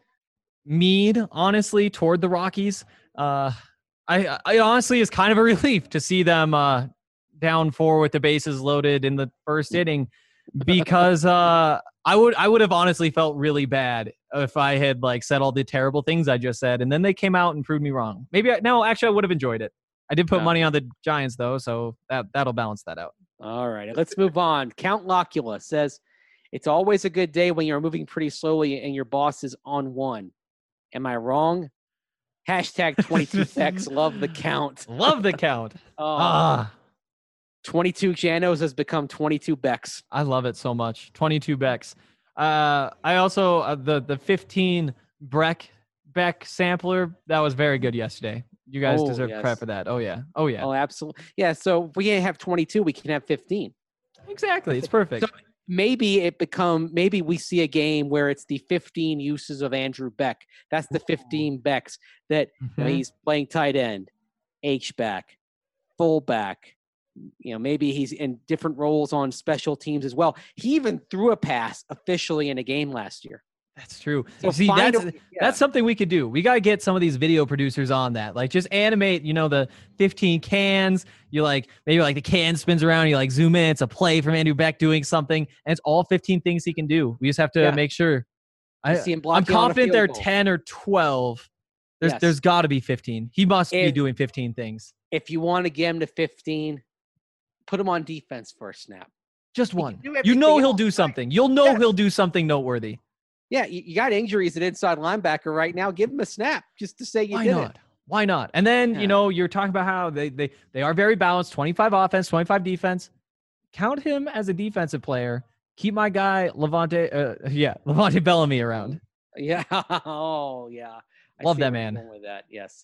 mean, honestly, toward the Rockies. Uh, I, I honestly is kind of a relief to see them uh, down four with the bases loaded in the first inning, because uh, I would I would have honestly felt really bad if I had like said all the terrible things I just said, and then they came out and proved me wrong. Maybe I, no, actually, I would have enjoyed it. I did put Yeah. money on the Giants though, so that that'll balance that out. All right, let's move on. Count Locula says, it's always a good day when you're moving pretty slowly and your boss is on one. Am I wrong? Hashtag twenty-two X. Love the count. Love the count. Oh, Ah. twenty-two Janos has become twenty-two Becks. I love it so much. twenty-two Becks. Uh, I also uh, the the fifteen Breck Beck sampler that was very good yesterday. You guys Oh, deserve yes. credit for that. Oh yeah. Oh yeah. Oh, absolutely. Yeah, so if we can't have twenty-two, we can have fifteen. Exactly. It's perfect. So maybe it become maybe we see a game where it's the fifteen uses of Andrew Beck. That's the fifteen Becks that you know, Mhm. he's playing tight end, H back, fullback. You know, maybe he's in different roles on special teams as well. He even threw a pass officially in a game last year. That's true. So See, find that's a- yeah. that's something we could do. We got to get some of these video producers on that. Like just animate, you know, the fifteen cans. You like maybe like the can spins around, you like zoom in, it's a play from Andrew Beck doing something, and it's all fifteen things he can do. We just have to Yeah. make sure. You I, see him I'm blocking on a confident field they're goal. ten or twelve. There's Yes. there's got to be fifteen. He must be If- doing fifteen things. If you want to get him to fifteen, put him on defense for a snap. Just He can one. do You everything know he'll else, do right? something. You'll know Yes. he'll do something noteworthy. Yeah, you, you got injuries at inside linebacker right now. Give him a snap just to say you Why did not? it. Why not? And then, Yeah. you know, you're talking about how they, they, they are very balanced, twenty-five offense, twenty-five defense. Count him as a defensive player. Keep my guy, Levante, uh, yeah, Levante Bellamy around. Yeah. Oh, yeah. I Love see that where you're man. going with that. Yes.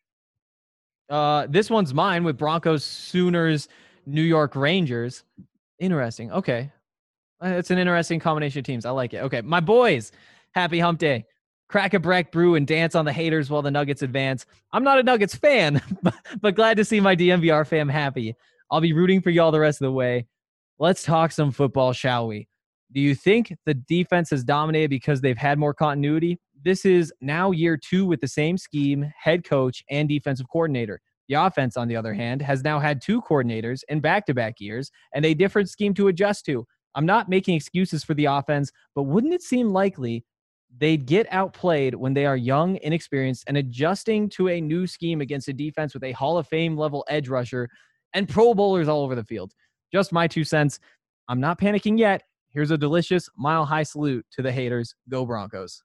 Uh, this one's mine with Broncos, Sooners, New York Rangers. Interesting. Okay. Uh, It's an interesting combination of teams. I like it. Okay. My boys, happy hump day. Crack a Breck brew and dance on the haters while the Nuggets advance. I'm not a Nuggets fan, but, but glad to see my D M V R fam happy. I'll be rooting for y'all the rest of the way. Let's talk some football, shall we? Do you think the defense has dominated because they've had more continuity? This is now year two with the same scheme, head coach, and defensive coordinator. The offense, on the other hand, has now had two coordinators in back-to-back years and a different scheme to adjust to. I'm not making excuses for the offense, but wouldn't it seem likely they'd get outplayed when they are young, inexperienced, and adjusting to a new scheme against a defense with a Hall of Fame level edge rusher and Pro Bowlers all over the field? Just my two cents. I'm not panicking yet. Here's a delicious mile high salute to the haters. Go Broncos.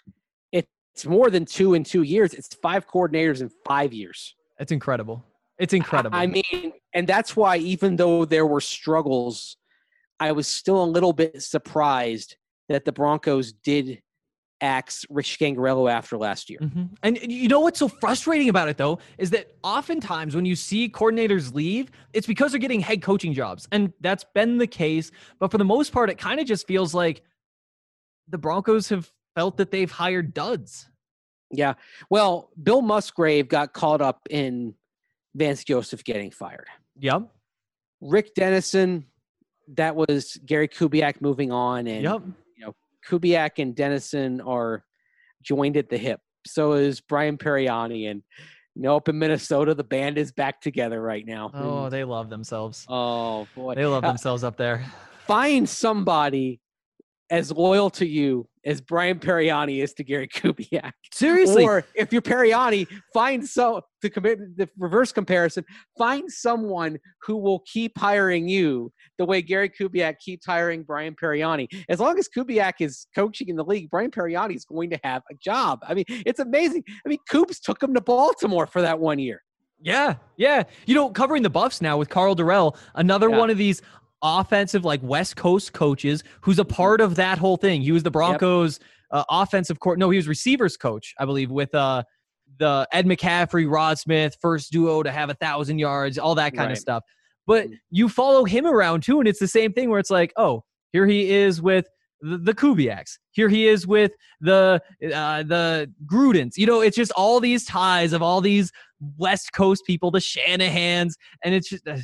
It's more than two in two years. It's five coordinators in five years. It's incredible. It's incredible. I mean, and that's why even though there were struggles, I was still a little bit surprised that the Broncos did axe Rich Scangarello after last year. Mhm. And you know what's so frustrating about it, though, is that oftentimes when you see coordinators leave, it's because they're getting head coaching jobs. And that's been the case. But for the most part, it kind of just feels like the Broncos have felt that they've hired duds. Yeah. Well, Bill Musgrave got caught up in Vance Joseph getting fired. Yep. Rick Dennison, that was Gary Kubiak moving on. And Yep. Kubiak and Dennison are joined at the hip. So is Brian Periani. And you know, up in Minnesota, the band is back together right now. Oh, And- they love themselves. oh boy. They love Uh, themselves up there. Find somebody as loyal to you as Brian Periani is to Gary Kubiak. Seriously. Or if you're Periani, find so to commit the reverse comparison, find someone who will keep hiring you the way Gary Kubiak keeps hiring Brian Periani. As long as Kubiak is coaching in the league, Brian Periani is going to have a job. I mean, it's amazing. I mean, Coops took him to Baltimore for that one year. Yeah, yeah. You know, covering the Buffs now with Carl Durrell, another Yeah. one of these offensive, like West Coast coaches who's a part of that whole thing. He was the Broncos uh, offensive court. No, he was receivers coach, I believe, with uh, the Ed McCaffrey, Rod Smith, first duo to have a thousand yards, all that kind Right. of stuff. But Mhm. you follow him around too, and it's the same thing where it's like, oh, here he is with the, the Kubiaks. Here he is with the uh, the Grudens. You know, it's just all these ties of all these West Coast people, the Shanahans, and it's just uh,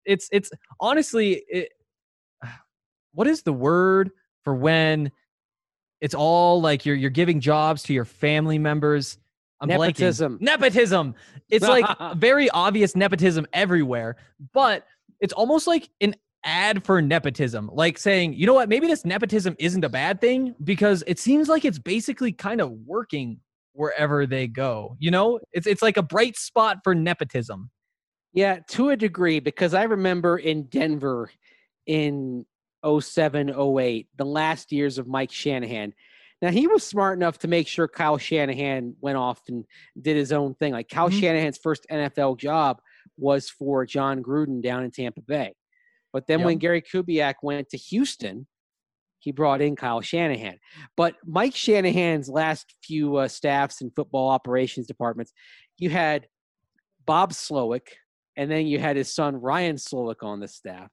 it's it's honestly, it, what is the word for when it's all like you're you're giving jobs to your family members? I'm Nepotism. blanking. Nepotism. It's like very obvious nepotism everywhere, but it's almost like an ad for nepotism, like saying, you know what, maybe this nepotism isn't a bad thing because it seems like it's basically kind of working wherever they go. You know, it's it's like a bright spot for nepotism. Yeah, to a degree, because I remember in Denver in oh seven, oh eight, the last years of Mike Shanahan. Now, he was smart enough to make sure Kyle Shanahan went off and did his own thing. Like Kyle mm-hmm. Shanahan's first N F L job was for John Gruden down in Tampa Bay. But then yep. when Gary Kubiak went to Houston, he brought in Kyle Shanahan. But Mike Shanahan's last few uh, staffs and football operations departments, you had Bob Slowick, and then you had his son Ryan Slowick on the staff.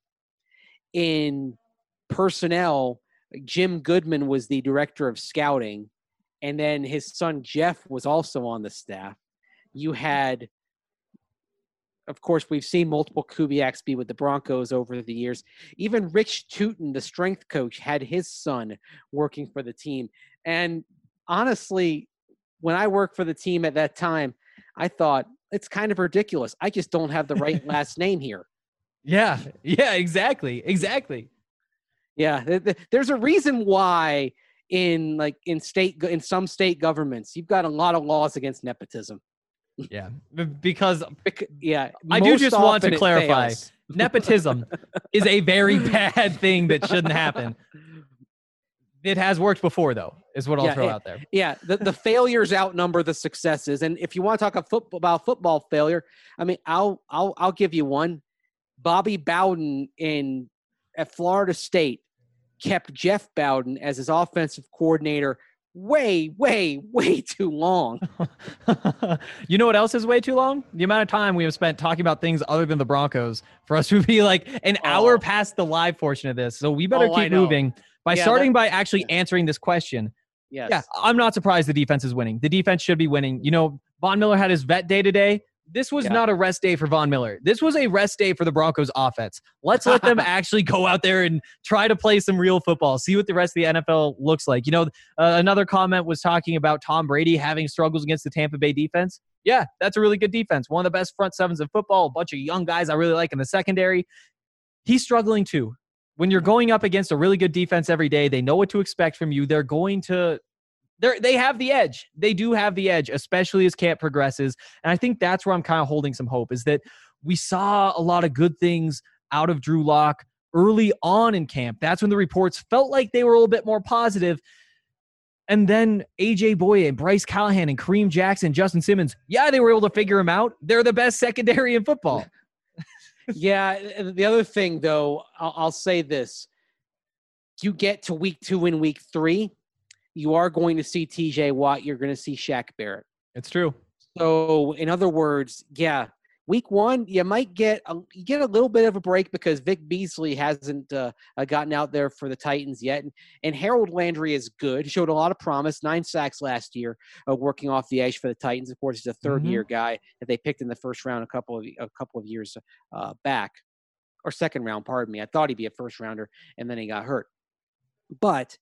In personnel, Jim Goodman was the director of scouting, and then his son Jeff was also on the staff. You had, of course, we've seen multiple Kubiaks be with the Broncos over the years. Even Rich Tootin, the strength coach, had his son working for the team. And honestly, when I worked for the team at that time, I thought, it's kind of ridiculous. I just don't have the right last name here. Yeah, yeah, exactly, exactly. Yeah, th- th- there's a reason why in like in state in some state governments you've got a lot of laws against nepotism. Yeah, because Bec- yeah, I do just want to clarify, nepotism is a very bad thing that shouldn't happen. It has worked before, though, is what I'll yeah, throw it, out there. Yeah, the, the failures outnumber the successes, and if you want to talk a football, about football failure, I mean, I'll I'll I'll give you one. Bobby Bowden in at Florida State kept Jeff Bowden as his offensive coordinator way, way, way too long. You know what else is way too long? The amount of time we have spent talking about things other than the Broncos for us to be like an oh. hour past the live portion of this. So we better oh, keep moving by yeah, starting that, by actually yeah. answering this question. Yes. Yeah, I'm not surprised the defense is winning. The defense should be winning. You know, Von Miller had his vet day today. This was yeah. not a rest day for Von Miller. This was a rest day for the Broncos offense. Let's let them actually go out there and try to play some real football, see what the rest of the N F L looks like. You know, uh, another comment was talking about Tom Brady having struggles against the Tampa Bay defense. Yeah, that's a really good defense. One of the best front sevens in football, a bunch of young guys I really like in the secondary. He's struggling too. When you're going up against a really good defense every day, they know what to expect from you. They're going to They they have the edge. They do have the edge, especially as camp progresses. And I think that's where I'm kind of holding some hope, is that we saw a lot of good things out of Drew Lock early on in camp. That's when the reports felt like they were a little bit more positive. And then A J Boye and Bryce Callahan and Kareem Jackson, Justin Simmons, yeah, they were able to figure him out. They're the best secondary in football. Yeah, the other thing, though, I'll, I'll say this. You get to week two and week three, you are going to see T J Watt. You're going to see Shaq Barrett. It's true. So, in other words, yeah, week one, you might get a, you get a little bit of a break because Vic Beasley hasn't uh, gotten out there for the Titans yet. And, and Harold Landry is good. He showed a lot of promise, nine sacks last year, uh, working off the edge for the Titans. Of course, he's a third-year mm-hmm. guy that they picked in the first round a couple of a couple of years uh, back. Or second round, pardon me. I thought he'd be a first-rounder, and then he got hurt. But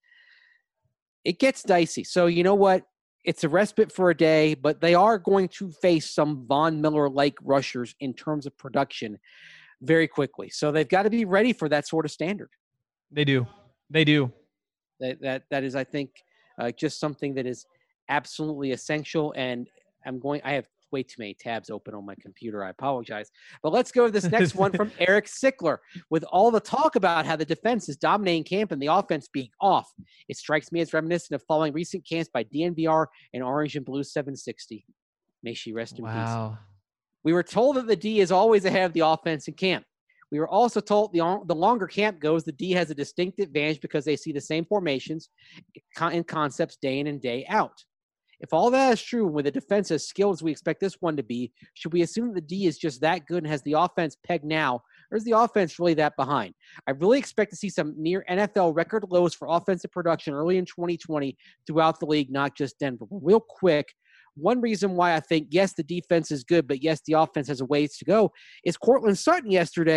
it gets dicey. So you know what? It's a respite for a day, but they are going to face some Von Miller-like rushers in terms of production very quickly. So they've got to be ready for that sort of standard. They do. They do. That that that is, I think, uh, just something that is absolutely essential. And I'm going. I have way too many tabs open on my computer. I apologize. But let's go to this next one from Eric Sickler. With all the talk about how the defense is dominating camp and the offense being off, it strikes me as reminiscent of following recent camps by D N V R and Orange and Blue seven sixty. May she rest in wow. peace. We were told that the D is always ahead of the offense in camp. We were also told the, the longer camp goes, the D has a distinct advantage because they see the same formations and concepts day in and day out. If all that is true, with a defense as skilled as we expect this one to be, should we assume the D is just that good and has the offense pegged now, or is the offense really that behind? I really expect to see some near N F L record lows for offensive production early in twenty twenty throughout the league, not just Denver. But real quick, one reason why I think, yes, the defense is good, but yes, the offense has a ways to go, is Cortland Sutton yesterday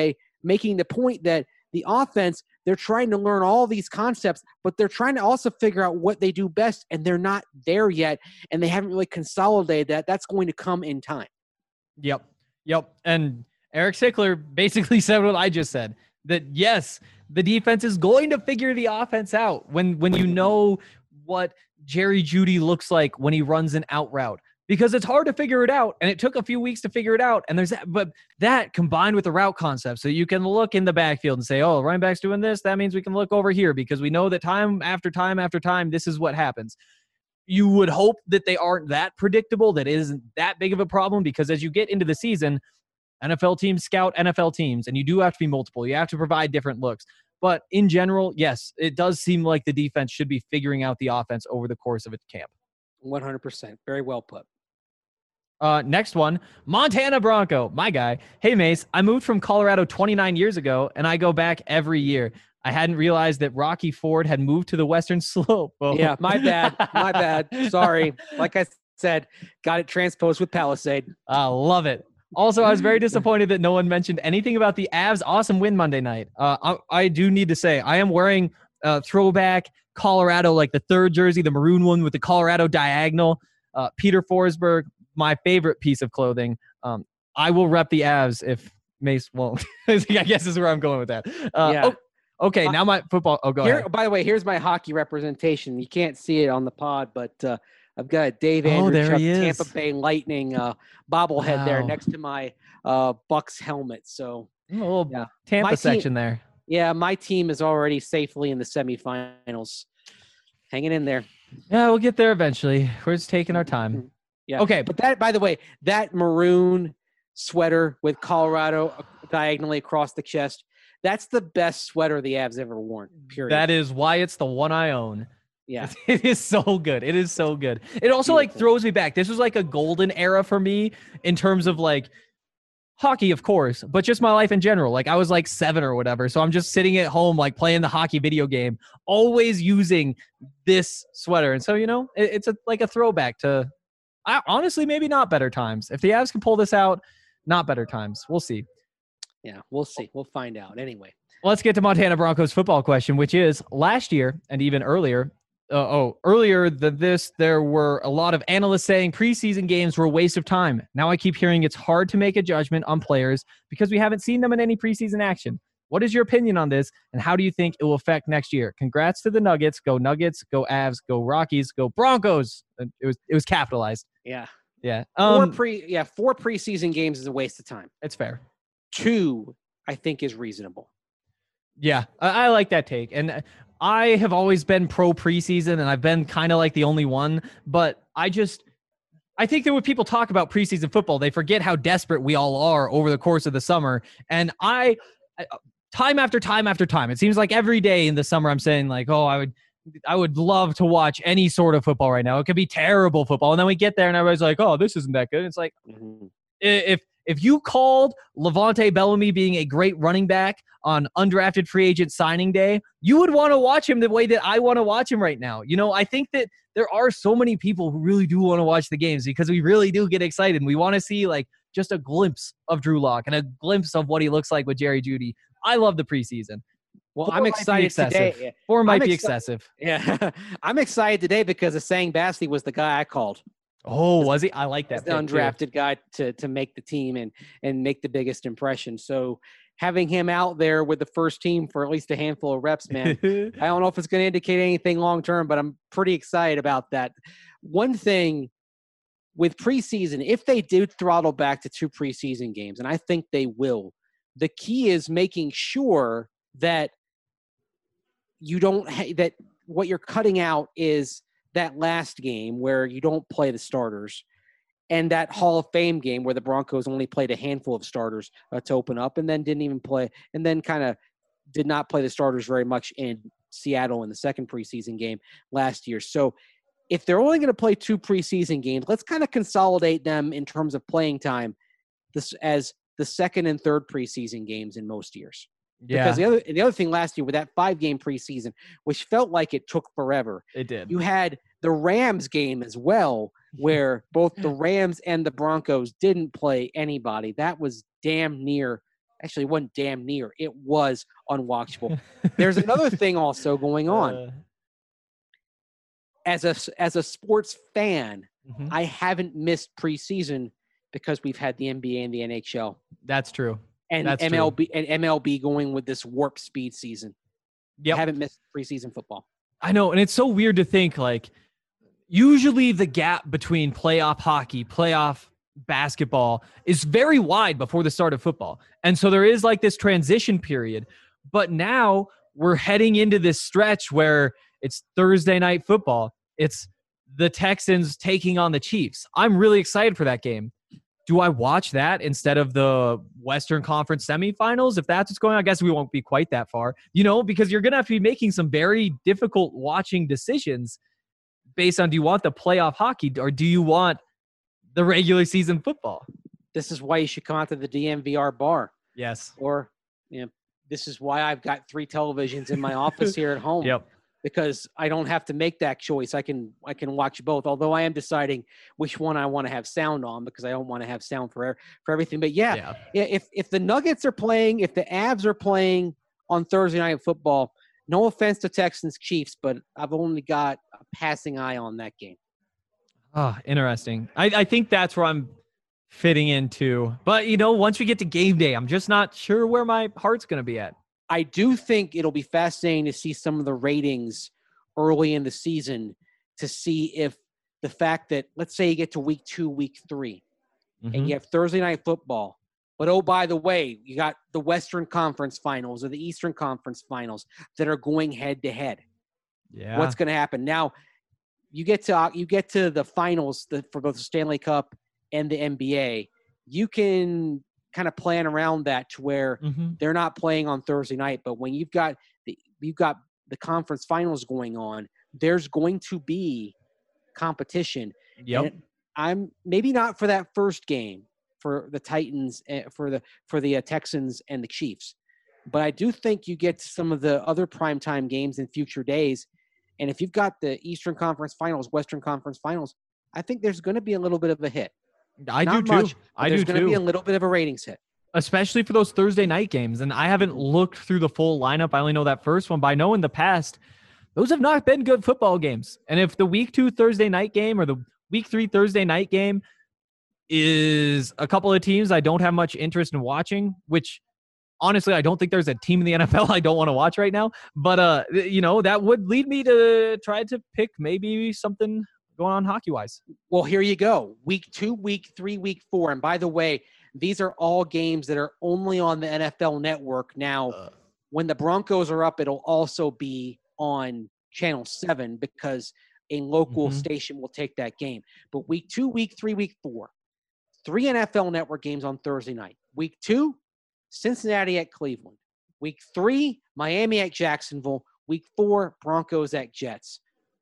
making the point that the offense, they're trying to learn all these concepts, but they're trying to also figure out what they do best, and they're not there yet, and they haven't really consolidated that. That's going to come in time. Yep. Yep. And Eric Sickler basically said what I just said, that yes, the defense is going to figure the offense out when, when you know what Jerry Jeudy looks like when he runs an out route, because it's hard to figure it out. And it took a few weeks to figure it out. And there's that, but that combined with the route concept, so you can look in the backfield and say, oh, running back's doing this. That means we can look over here because we know that time after time after time, this is what happens. You would hope that they aren't that predictable, that it isn't that big of a problem, because as you get into the season, N F L teams scout N F L teams, and you do have to be multiple. You have to provide different looks. But in general, yes, it does seem like the defense should be figuring out the offense over the course of its camp. one hundred percent. Very well put. Uh, next one, Montana Bronco, my guy. Hey, Mace, I moved from Colorado twenty-nine years ago, and I go back every year. I hadn't realized that Rocky Ford had moved to the Western Slope. Oh. Yeah, my bad. My bad. Sorry. Like I said, got it transposed with Palisade. I love it. Also, I was very disappointed that no one mentioned anything about the Avs' awesome win Monday night. Uh, I, I do need to say, I am wearing uh, throwback Colorado, like the third jersey, the maroon one with the Colorado diagonal. Uh, Peter Forsberg, my favorite piece of clothing. Um, I will rep the Avs if Mace won't. I guess is where I'm going with that. Uh, Yeah. Oh, okay, now my football. Oh, go Here, ahead. by the way, here's my hockey representation. You can't see it on the pod, but uh, I've got a Dave Oh, there Andrewchuk he is. Tampa Bay Lightning uh, bobblehead there Wow. next to my uh, Bucks helmet. So, A little yeah. Tampa My team- section there. yeah, my team is already safely in the semifinals. Hanging in there. Yeah, we'll get there eventually. We're just taking our time. Yeah. Okay. But that, by the way, that maroon sweater with Colorado diagonally across the chest, that's the best sweater the Avs ever worn, period. That is why it's the one I own. yeah. It is so good. It is so good. It also like Beautiful. throws me back. This was like a golden era for me in terms of like hockey, of course, but just my life in general. Like I was like seven or whatever. So I'm just sitting at home, like playing the hockey video game, always using this sweater. And so, you know, it, it's a, like a throwback to, I, honestly, maybe not better times. If the Avs can pull this out, not better times. We'll see. Yeah, we'll see. We'll find out. Anyway. Let's get to Montana Broncos football question, which is last year and even earlier. Uh, oh, earlier than this, there were a lot of analysts saying preseason games were a waste of time. Now I keep hearing it's hard to make a judgment on players because we haven't seen them in any preseason action. What is your opinion on this, and how do you think it will affect next year? Congrats to the Nuggets. Go Nuggets. Go Avs. Go Rockies. Go Broncos. It was it was capitalized. Yeah. Yeah. Four Um, pre yeah, four preseason games is a waste of time. it's fair. Two, I think, is reasonable. Yeah, I, I like that take. And I have always been pro preseason, and I've been kind of like the only one. But I just, I think that when people talk about preseason football, they forget how desperate we all are over the course of the summer. And I, time after time after time, it seems like every day in the summer, I'm saying like, oh, I would, I would love to watch any sort of football right now. It could be terrible football. And then we get there and everybody's like, oh, this isn't that good. It's like, Mhm. if if you called Levante Bellamy being a great running back on undrafted free agent signing day, you would want to watch him the way that I want to watch him right now. You know, I think that there are so many people who really do want to watch the games because we really do get excited. And we want to see like just a glimpse of Drew Lock and a glimpse of what he looks like with Jerry Jeudy. I love the preseason. Well, Four I'm might be excited excessive. today. Four might I'm be exci- excessive. Yeah, I'm excited today because Asang Basley was the guy I called. Oh, was he? I like As that. the pick, too. undrafted guy to to make the team and and make the biggest impression. So having him out there with the first team for at least a handful of reps, man, I don't know if it's going to indicate anything long term, but I'm pretty excited about that. One thing with preseason, if they do throttle back to two preseason games, and I think they will, the key is making sure that you don't ha- that what you're cutting out is that last game where you don't play the starters, and that Hall of Fame game where the Broncos only played a handful of starters uh, to open up, and then didn't even play, and then kind of did not play the starters very much in Seattle in the second preseason game last year. So if they're only going to play two preseason games, let's kind of consolidate them in terms of playing time this as the second and third preseason games in most years. Yeah, Because the other the other thing last year with that five game preseason, which felt like it took forever, it did. you had the Rams game as well, where both the Rams and the Broncos didn't play anybody. That was damn near Actually, it wasn't damn near. It was unwatchable. There's another thing also going on. Uh, As a as a sports fan, mhm. I haven't missed preseason because we've had the N B A and the N H L That's true. and That's M L B and M L B going with this warp speed season. Yep. I haven't missed preseason football. I know, and it's so weird to think like usually the gap between playoff hockey, playoff basketball is very wide before the start of football. And so there is like this transition period. But now we're heading into this stretch where it's Thursday night football. It's the Texans taking on the Chiefs. I'm really excited for that game. Do I watch that instead of the Western Conference semifinals? If that's what's going on, I guess we won't be quite that far, you know, because you're going to have to be making some very difficult watching decisions based on, do you want the playoff hockey or do you want the regular season football? This is why you should come out to the D M V R bar. Yes. Or, you know, this is why I've got three televisions in my office here at home. Yep. Because I don't have to make that choice. I can I can watch both. Although I am deciding which one I want to have sound on because I don't want to have sound for for everything. But yeah, Yeah. yeah, if if the Nuggets are playing, if the Avs are playing on Thursday Night Football, no offense to Texans Chiefs, but I've only got a passing eye on that game. Oh, interesting. I, I think that's where I'm fitting into. But, you know, once we get to game day, I'm just not sure where my heart's going to be at. I do think it'll be fascinating to see some of the ratings early in the season to see if the fact that, let's say you get to week two, week three, Mhm. and you have Thursday Night Football. But, oh, by the way, you got the Western Conference Finals or the Eastern Conference Finals that are going head-to-head. Yeah. What's going to happen? Now, you get to you get to the finals the, for both the Stanley Cup and the N B A. You can kind of plan around that to where Mhm. they're not playing on Thursday night. But when you've got the you've got the conference finals going on, there's going to be competition. Yep. And I'm maybe not for that first game for the Titans, uh, for the for the uh, Texans and the Chiefs, but I do think you get to some of the other primetime games in future days. And if you've got the Eastern Conference Finals, Western Conference Finals, I think there's going to be a little bit of a hit. I Not do too. much, but I there's do going to be a too. little bit of a ratings hit. Especially for those Thursday night games. And I haven't looked through the full lineup. I only know that first one, but I know in the past, those have not been good football games. And if the week two Thursday night game or the week three Thursday night game is a couple of teams I don't have much interest in watching, which honestly, I don't think there's a team in the N F L I don't want to watch right now. But, uh, you know, that would lead me to try to pick maybe something going on hockey-wise. Well, here you go. Week two, week three, week four. And by the way, these are all games that are only on the N F L Network. Now, Uh. when the Broncos are up, it'll also be on Channel seven because a local Mhm. station will take that game. But week two, week three, week four, three N F L Network games on Thursday night. Week two, Cincinnati at Cleveland. Week three, Miami at Jacksonville. Week four, Broncos at Jets.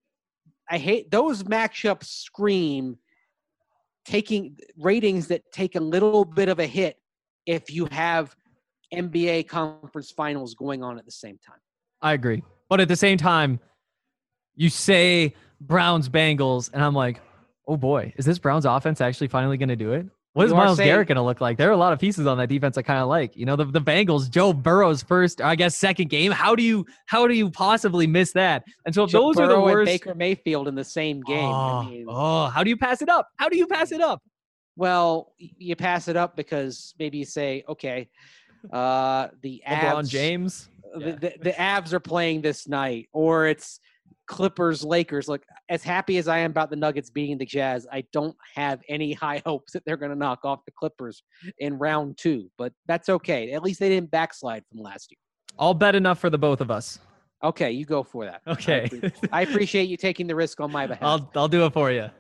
I hate those matchups scream taking ratings that take a little bit of a hit if you have N B A conference finals going on at the same time. I agree. But at the same time, you say Browns Bengals, and I'm like, oh boy, is this Browns offense actually finally going to do it? What is You are Myles saying- Garrett going to look like? There are a lot of pieces on that defense I kind of like. You know, the, the Bengals, Joe Burrow's first, I guess, second game. How do you how do you possibly miss that? And so if Joe those are the Burrow and worst. Baker Mayfield in the same game. Oh, I mean, oh, how do you pass it up? How do you pass it up? well, y- you pass it up because maybe you say, okay, uh, the LeBron Avs, James. the, Yeah. the, the Avs are playing this night, or it's Clippers, Lakers. Look, as happy as I am about the Nuggets beating the Jazz, I don't have any high hopes that they're going to knock off the Clippers in round two, but that's okay. At least they didn't backslide from last year. All bet enough for the both of us. Okay, you go for that. I Okay. appre- I appreciate you taking the risk on my behalf. I'll I'll do it for you.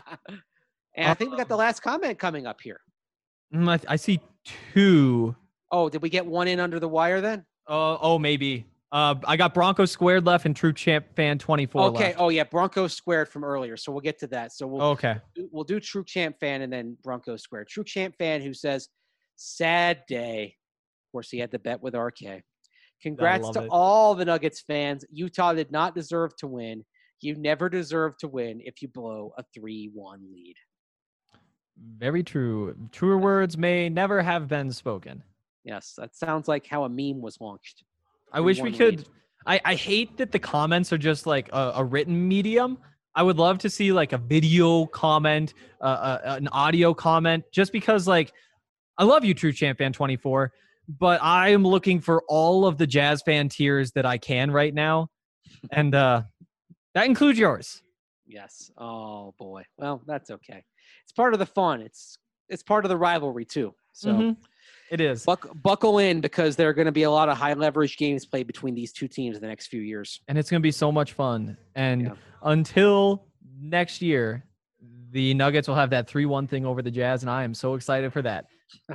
And I think we got the last comment coming up here. Mm, I, I see two. Oh, did we get one in under the wire then? Uh, oh, maybe. Uh, I got Broncos squared left and True Champ Fan twenty-four Okay. left. Oh, yeah. Broncos squared from earlier. So we'll get to that. So we'll Okay. do- we'll do True Champ Fan and then Broncos squared. True Champ Fan who says, sad day. Of course, he had the bet with R K. Congrats love to it. all the Nuggets fans. Utah did not deserve to win. You never deserve to win if you blow a three one lead. Very true. Truer words may never have been spoken. Yes, that sounds like how a meme was launched. I wish we could. I, I hate that the comments are just like a, a written medium. I would love to see like a video comment, uh, uh, an audio comment, just because like I love you, True Champ Fan twenty-four, but I am looking for all of the Jazz fan tears that I can right now, and uh, that includes yours. Yes. Oh boy. Well, that's okay. It's part of the fun. It's it's part of the rivalry too. So Mhm. It is. buck, buckle in because there are going to be a lot of high leverage games played between these two teams in the next few years. And it's going to be so much fun. And Yeah. until next year, the Nuggets will have that three one thing over the Jazz, and I am so excited for that.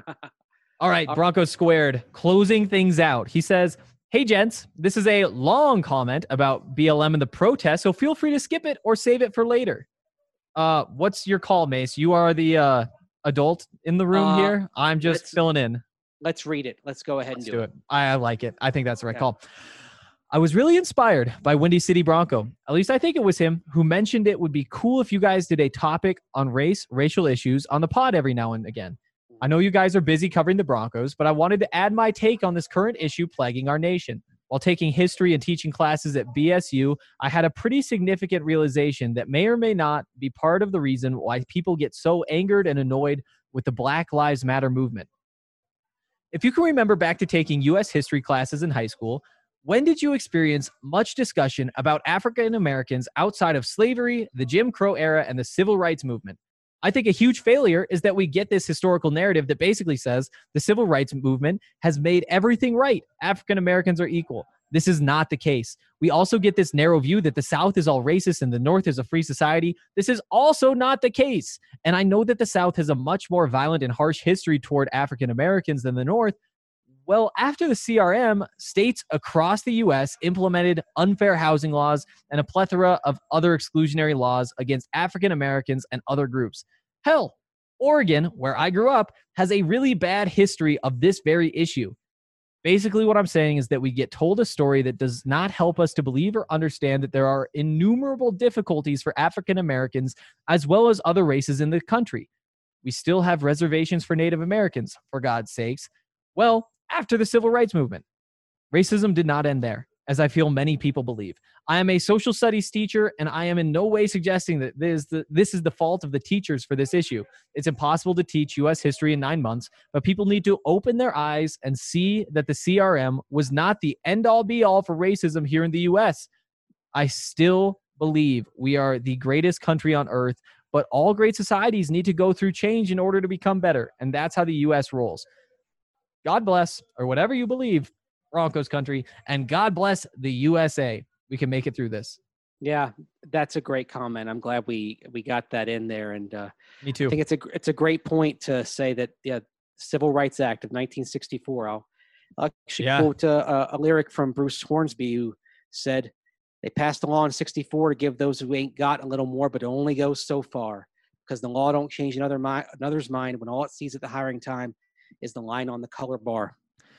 All right, Broncos Squared, closing things out. He says, hey, gents, this is a long comment about B L M and the protest, so feel free to skip it or save it for later. Uh, what's your call, Mace? You are the uh, adult in the room Uh, here. I'm just let's- filling in. Let's read it. Let's go ahead Let's and do do it. I, I like it. I think that's the right Okay. call. I was really inspired by Windy City Bronco. At least I think it was him who mentioned it would be cool if you guys did a topic on race, racial issues on the pod every now and again. I know you guys are busy covering the Broncos, but I wanted to add my take on this current issue plaguing our nation. While taking history and teaching classes at B S U, I had a pretty significant realization that may or may not be part of the reason why people get so angered and annoyed with the Black Lives Matter movement. If you can remember back to taking U S history classes in high school, when did you experience much discussion about African Americans outside of slavery, the Jim Crow era, and the civil rights movement? I think a huge failure is that we get this historical narrative that basically says the civil rights movement has made everything right. African Americans are equal. This is not the case. We also get this narrow view that the South is all racist and the North is a free society. This is also not the case. And I know that the South has a much more violent and harsh history toward African Americans than the North. Well, after the C R M, states across the U S implemented unfair housing laws and a plethora of other exclusionary laws against African Americans and other groups. Hell, Oregon, where I grew up, has a really bad history of this very issue. Basically, what I'm saying is that we get told a story that does not help us to believe or understand that there are innumerable difficulties for African Americans as well as other races in the country. We still have reservations for Native Americans, for God's sakes. Well, after the civil rights movement, racism did not end there, as I feel many people believe. I am a social studies teacher, and I am in no way suggesting that this is the, this is the fault of the teachers for this issue. It's impossible to teach U S history in nine months, but people need to open their eyes and see that the C R M was not the end-all be-all for racism here in the U S. I still believe we are the greatest country on earth, but all great societies need to go through change in order to become better, and that's how the U S rolls. God bless, or whatever you believe, Broncos country, and God bless the U S A. We can make it through this. Yeah, that's a great comment. I'm glad we we got that in there, and uh, Me I too. think it's a it's a great point to say that yeah, Civil Rights Act of nineteen sixty-four. I'll, I'll actually Yeah. quote uh, a, a lyric from Bruce Hornsby who said, "They passed the law in sixty-four to give those who ain't got a little more, but it only goes so far, because the law don't change another mi- another's mind when all it sees at the hiring time is the line on the color bar."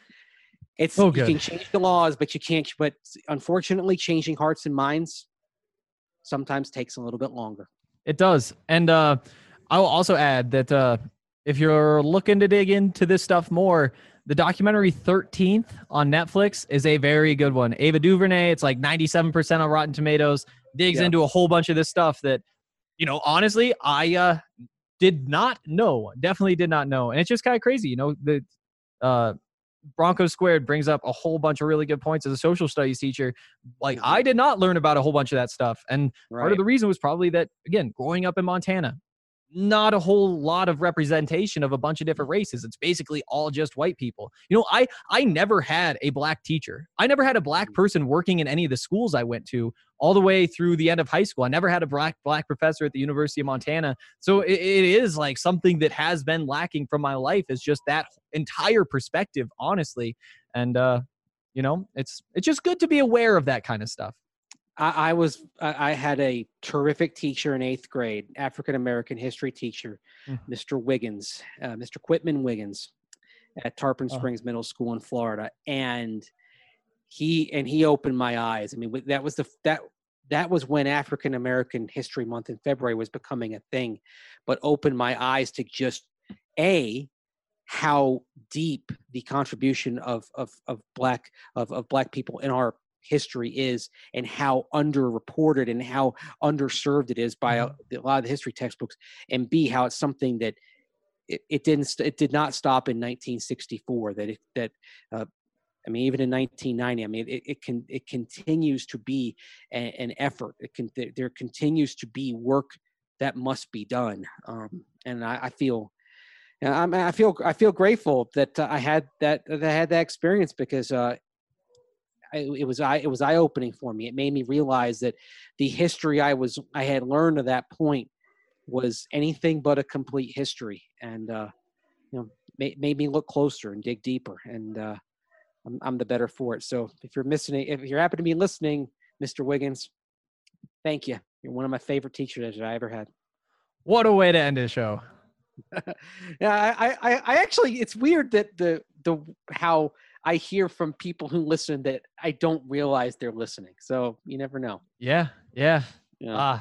It's Oh, you good. can change the laws, but you can't. But unfortunately, changing hearts and minds sometimes takes a little bit longer. It does. And uh, I will also add that uh, if you're looking to dig into this stuff more, the documentary thirteenth on Netflix is a very good one. Ava DuVernay, it's like ninety-seven percent on Rotten Tomatoes, digs Yeah. into a whole bunch of this stuff that, you know, honestly, I uh, did not know. Definitely did not know. And it's just kind of crazy. You know, the uh, Broncos Squared brings up a whole bunch of really good points as a social studies teacher. Like, Mhm. I did not learn about a whole bunch of that stuff. And part Right. of the reason was probably that, again, growing up in Montana, not a whole lot of representation of a bunch of different races. It's basically all just white people. You know, I I never had a black teacher. I never had a black person working in any of the schools I went to all the way through the end of high school. I never had a black black professor at the University of Montana. So it, it is like something that has been lacking from my life, is just that entire perspective, honestly. And uh, you know, it's it's just good to be aware of that kind of stuff. I, I was I I had a terrific teacher in eighth grade, African American history teacher, Mm. Mister Wiggins, uh, Mister Quitman Wiggins, at Tarpon Oh. Springs Middle School in Florida, and he and he opened my eyes. I mean, with- that was the that that was when African American History Month in February was becoming a thing, but opened my eyes to just a how deep the contribution of of of black of, of black people in our history is, and how underreported and how underserved it is by a, a lot of the history textbooks, and B, how it's something that it, it didn't it did not stop in nineteen sixty-four, that it that uh, I mean, even in nineteen ninety, I mean, it, it can it continues to be a, an effort. It can there continues to be work that must be done, um, and I, I feel, I, mean, I feel I feel grateful that uh, I had that that I had that experience, because uh, I, it was I it was eye opening for me. It made me realize that the history I was I had learned to that point was anything but a complete history, and uh, you know, made, made me look closer and dig deeper, and uh, I'm, I'm the better for it. So if you're missing it, if you're happen to be listening, Mister Wiggins, thank you. You're one of my favorite teachers that I ever had. What a way to end a show. Yeah, I, I, I actually, it's weird that the, the, how I hear from people who listen that I don't realize they're listening. So you never know. Yeah. Yeah. Yeah. Ah.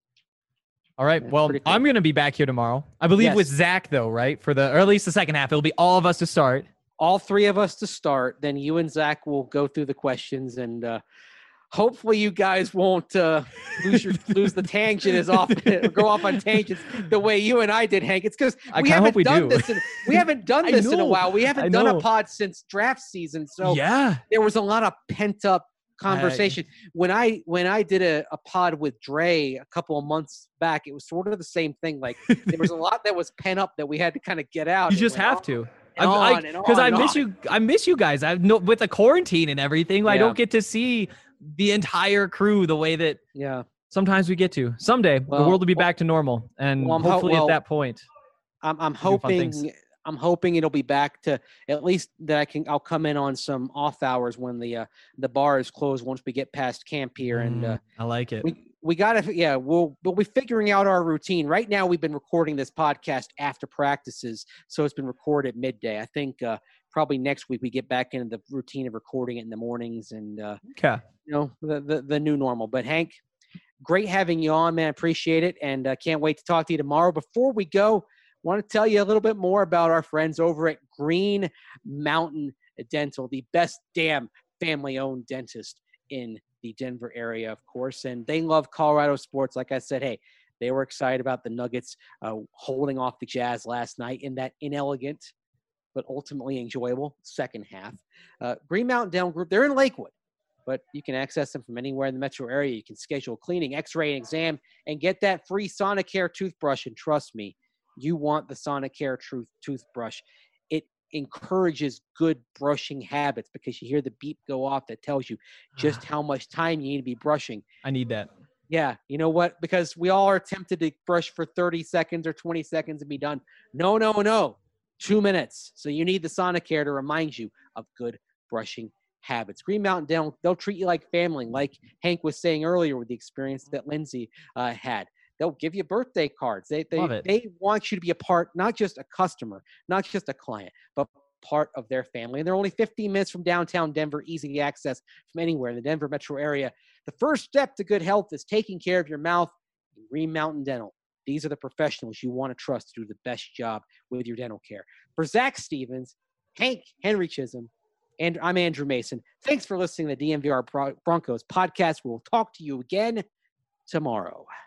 All right. Yeah, well, pretty cool. I'm going to be back here tomorrow. I believe Yes. with Zach though, right? For the, or at least the second half, it'll be all of us to start. All three of us to start. Then you and Zach will go through the questions, and uh, hopefully you guys won't uh, lose your, lose the tangent as often, go off on tangents the way you and I did, Hank. It's because I we kinda haven't hope we done do. this. In, we haven't done I this in a know. while. We haven't I done know. a pod since draft season, so Yeah. there was a lot of pent up conversation. when I when I did a, a pod with Dre a couple of months back, it was sort of the same thing. Like there was a lot that was pent up that we had to kind of get out. You It just went have on to. and I'm- on and Because on I and miss on. you. I miss you guys. I know with the quarantine and everything, I Yeah. don't get to see the entire crew the way that Yeah. sometimes we get to. Someday Well, the world will be well- back to normal, and well, I'm ho- hopefully well, at that point, I'm I'm do fun things. hoping I'm hoping it'll be back to at least that I can I'll come in on some off hours when the uh, the bar is closed once we get past camp here, and uh, Mm, I like it. we we gotta yeah we'll we'll be figuring out our routine. Right now we've been recording this podcast after practices, so it's been recorded midday. I think uh, probably next week we get back into the routine of recording it in the mornings, and uh, Okay. you know the, the the new normal. But Hank, great having you on, man. Appreciate it, and uh, can't wait to talk to you tomorrow. Before we go, want to tell you a little bit more about our friends over at Green Mountain Dental, the best damn family-owned dentist in the Denver area, of course. And they love Colorado sports. Like I said, hey, they were excited about the Nuggets uh, holding off the Jazz last night in that inelegant but ultimately enjoyable second half. Uh, Green Mountain Dental Group, they're in Lakewood, but you can access them from anywhere in the metro area. You can schedule cleaning, x-ray, and exam, and get that free Sonicare toothbrush. And trust me, you want the Sonicare Truth toothbrush. It encourages good brushing habits because you hear the beep go off that tells you just how much time you need to be brushing. I need that. Yeah, you know what? Because we all are tempted to brush for thirty seconds or twenty seconds and be done. No, no, no. Two minutes. So you need the Sonicare to remind you of good brushing habits. Green Mountain Dental, they'll treat you like family, like Hank was saying earlier with the experience that Lindsay uh, had. They'll give you birthday cards. They they Love it. they want you to be a part, not just a customer, not just a client, but part of their family. And they're only fifteen minutes from downtown Denver, easy to access from anywhere in the Denver metro area. The first step to good health is taking care of your mouth. Green Mountain Dental. These are the professionals you want to trust to do the best job with your dental care. For Zach Stevens, Hank Henry Chisholm, and I'm Andrew Mason. Thanks for listening to the D N V R Broncos podcast. We'll talk to you again tomorrow.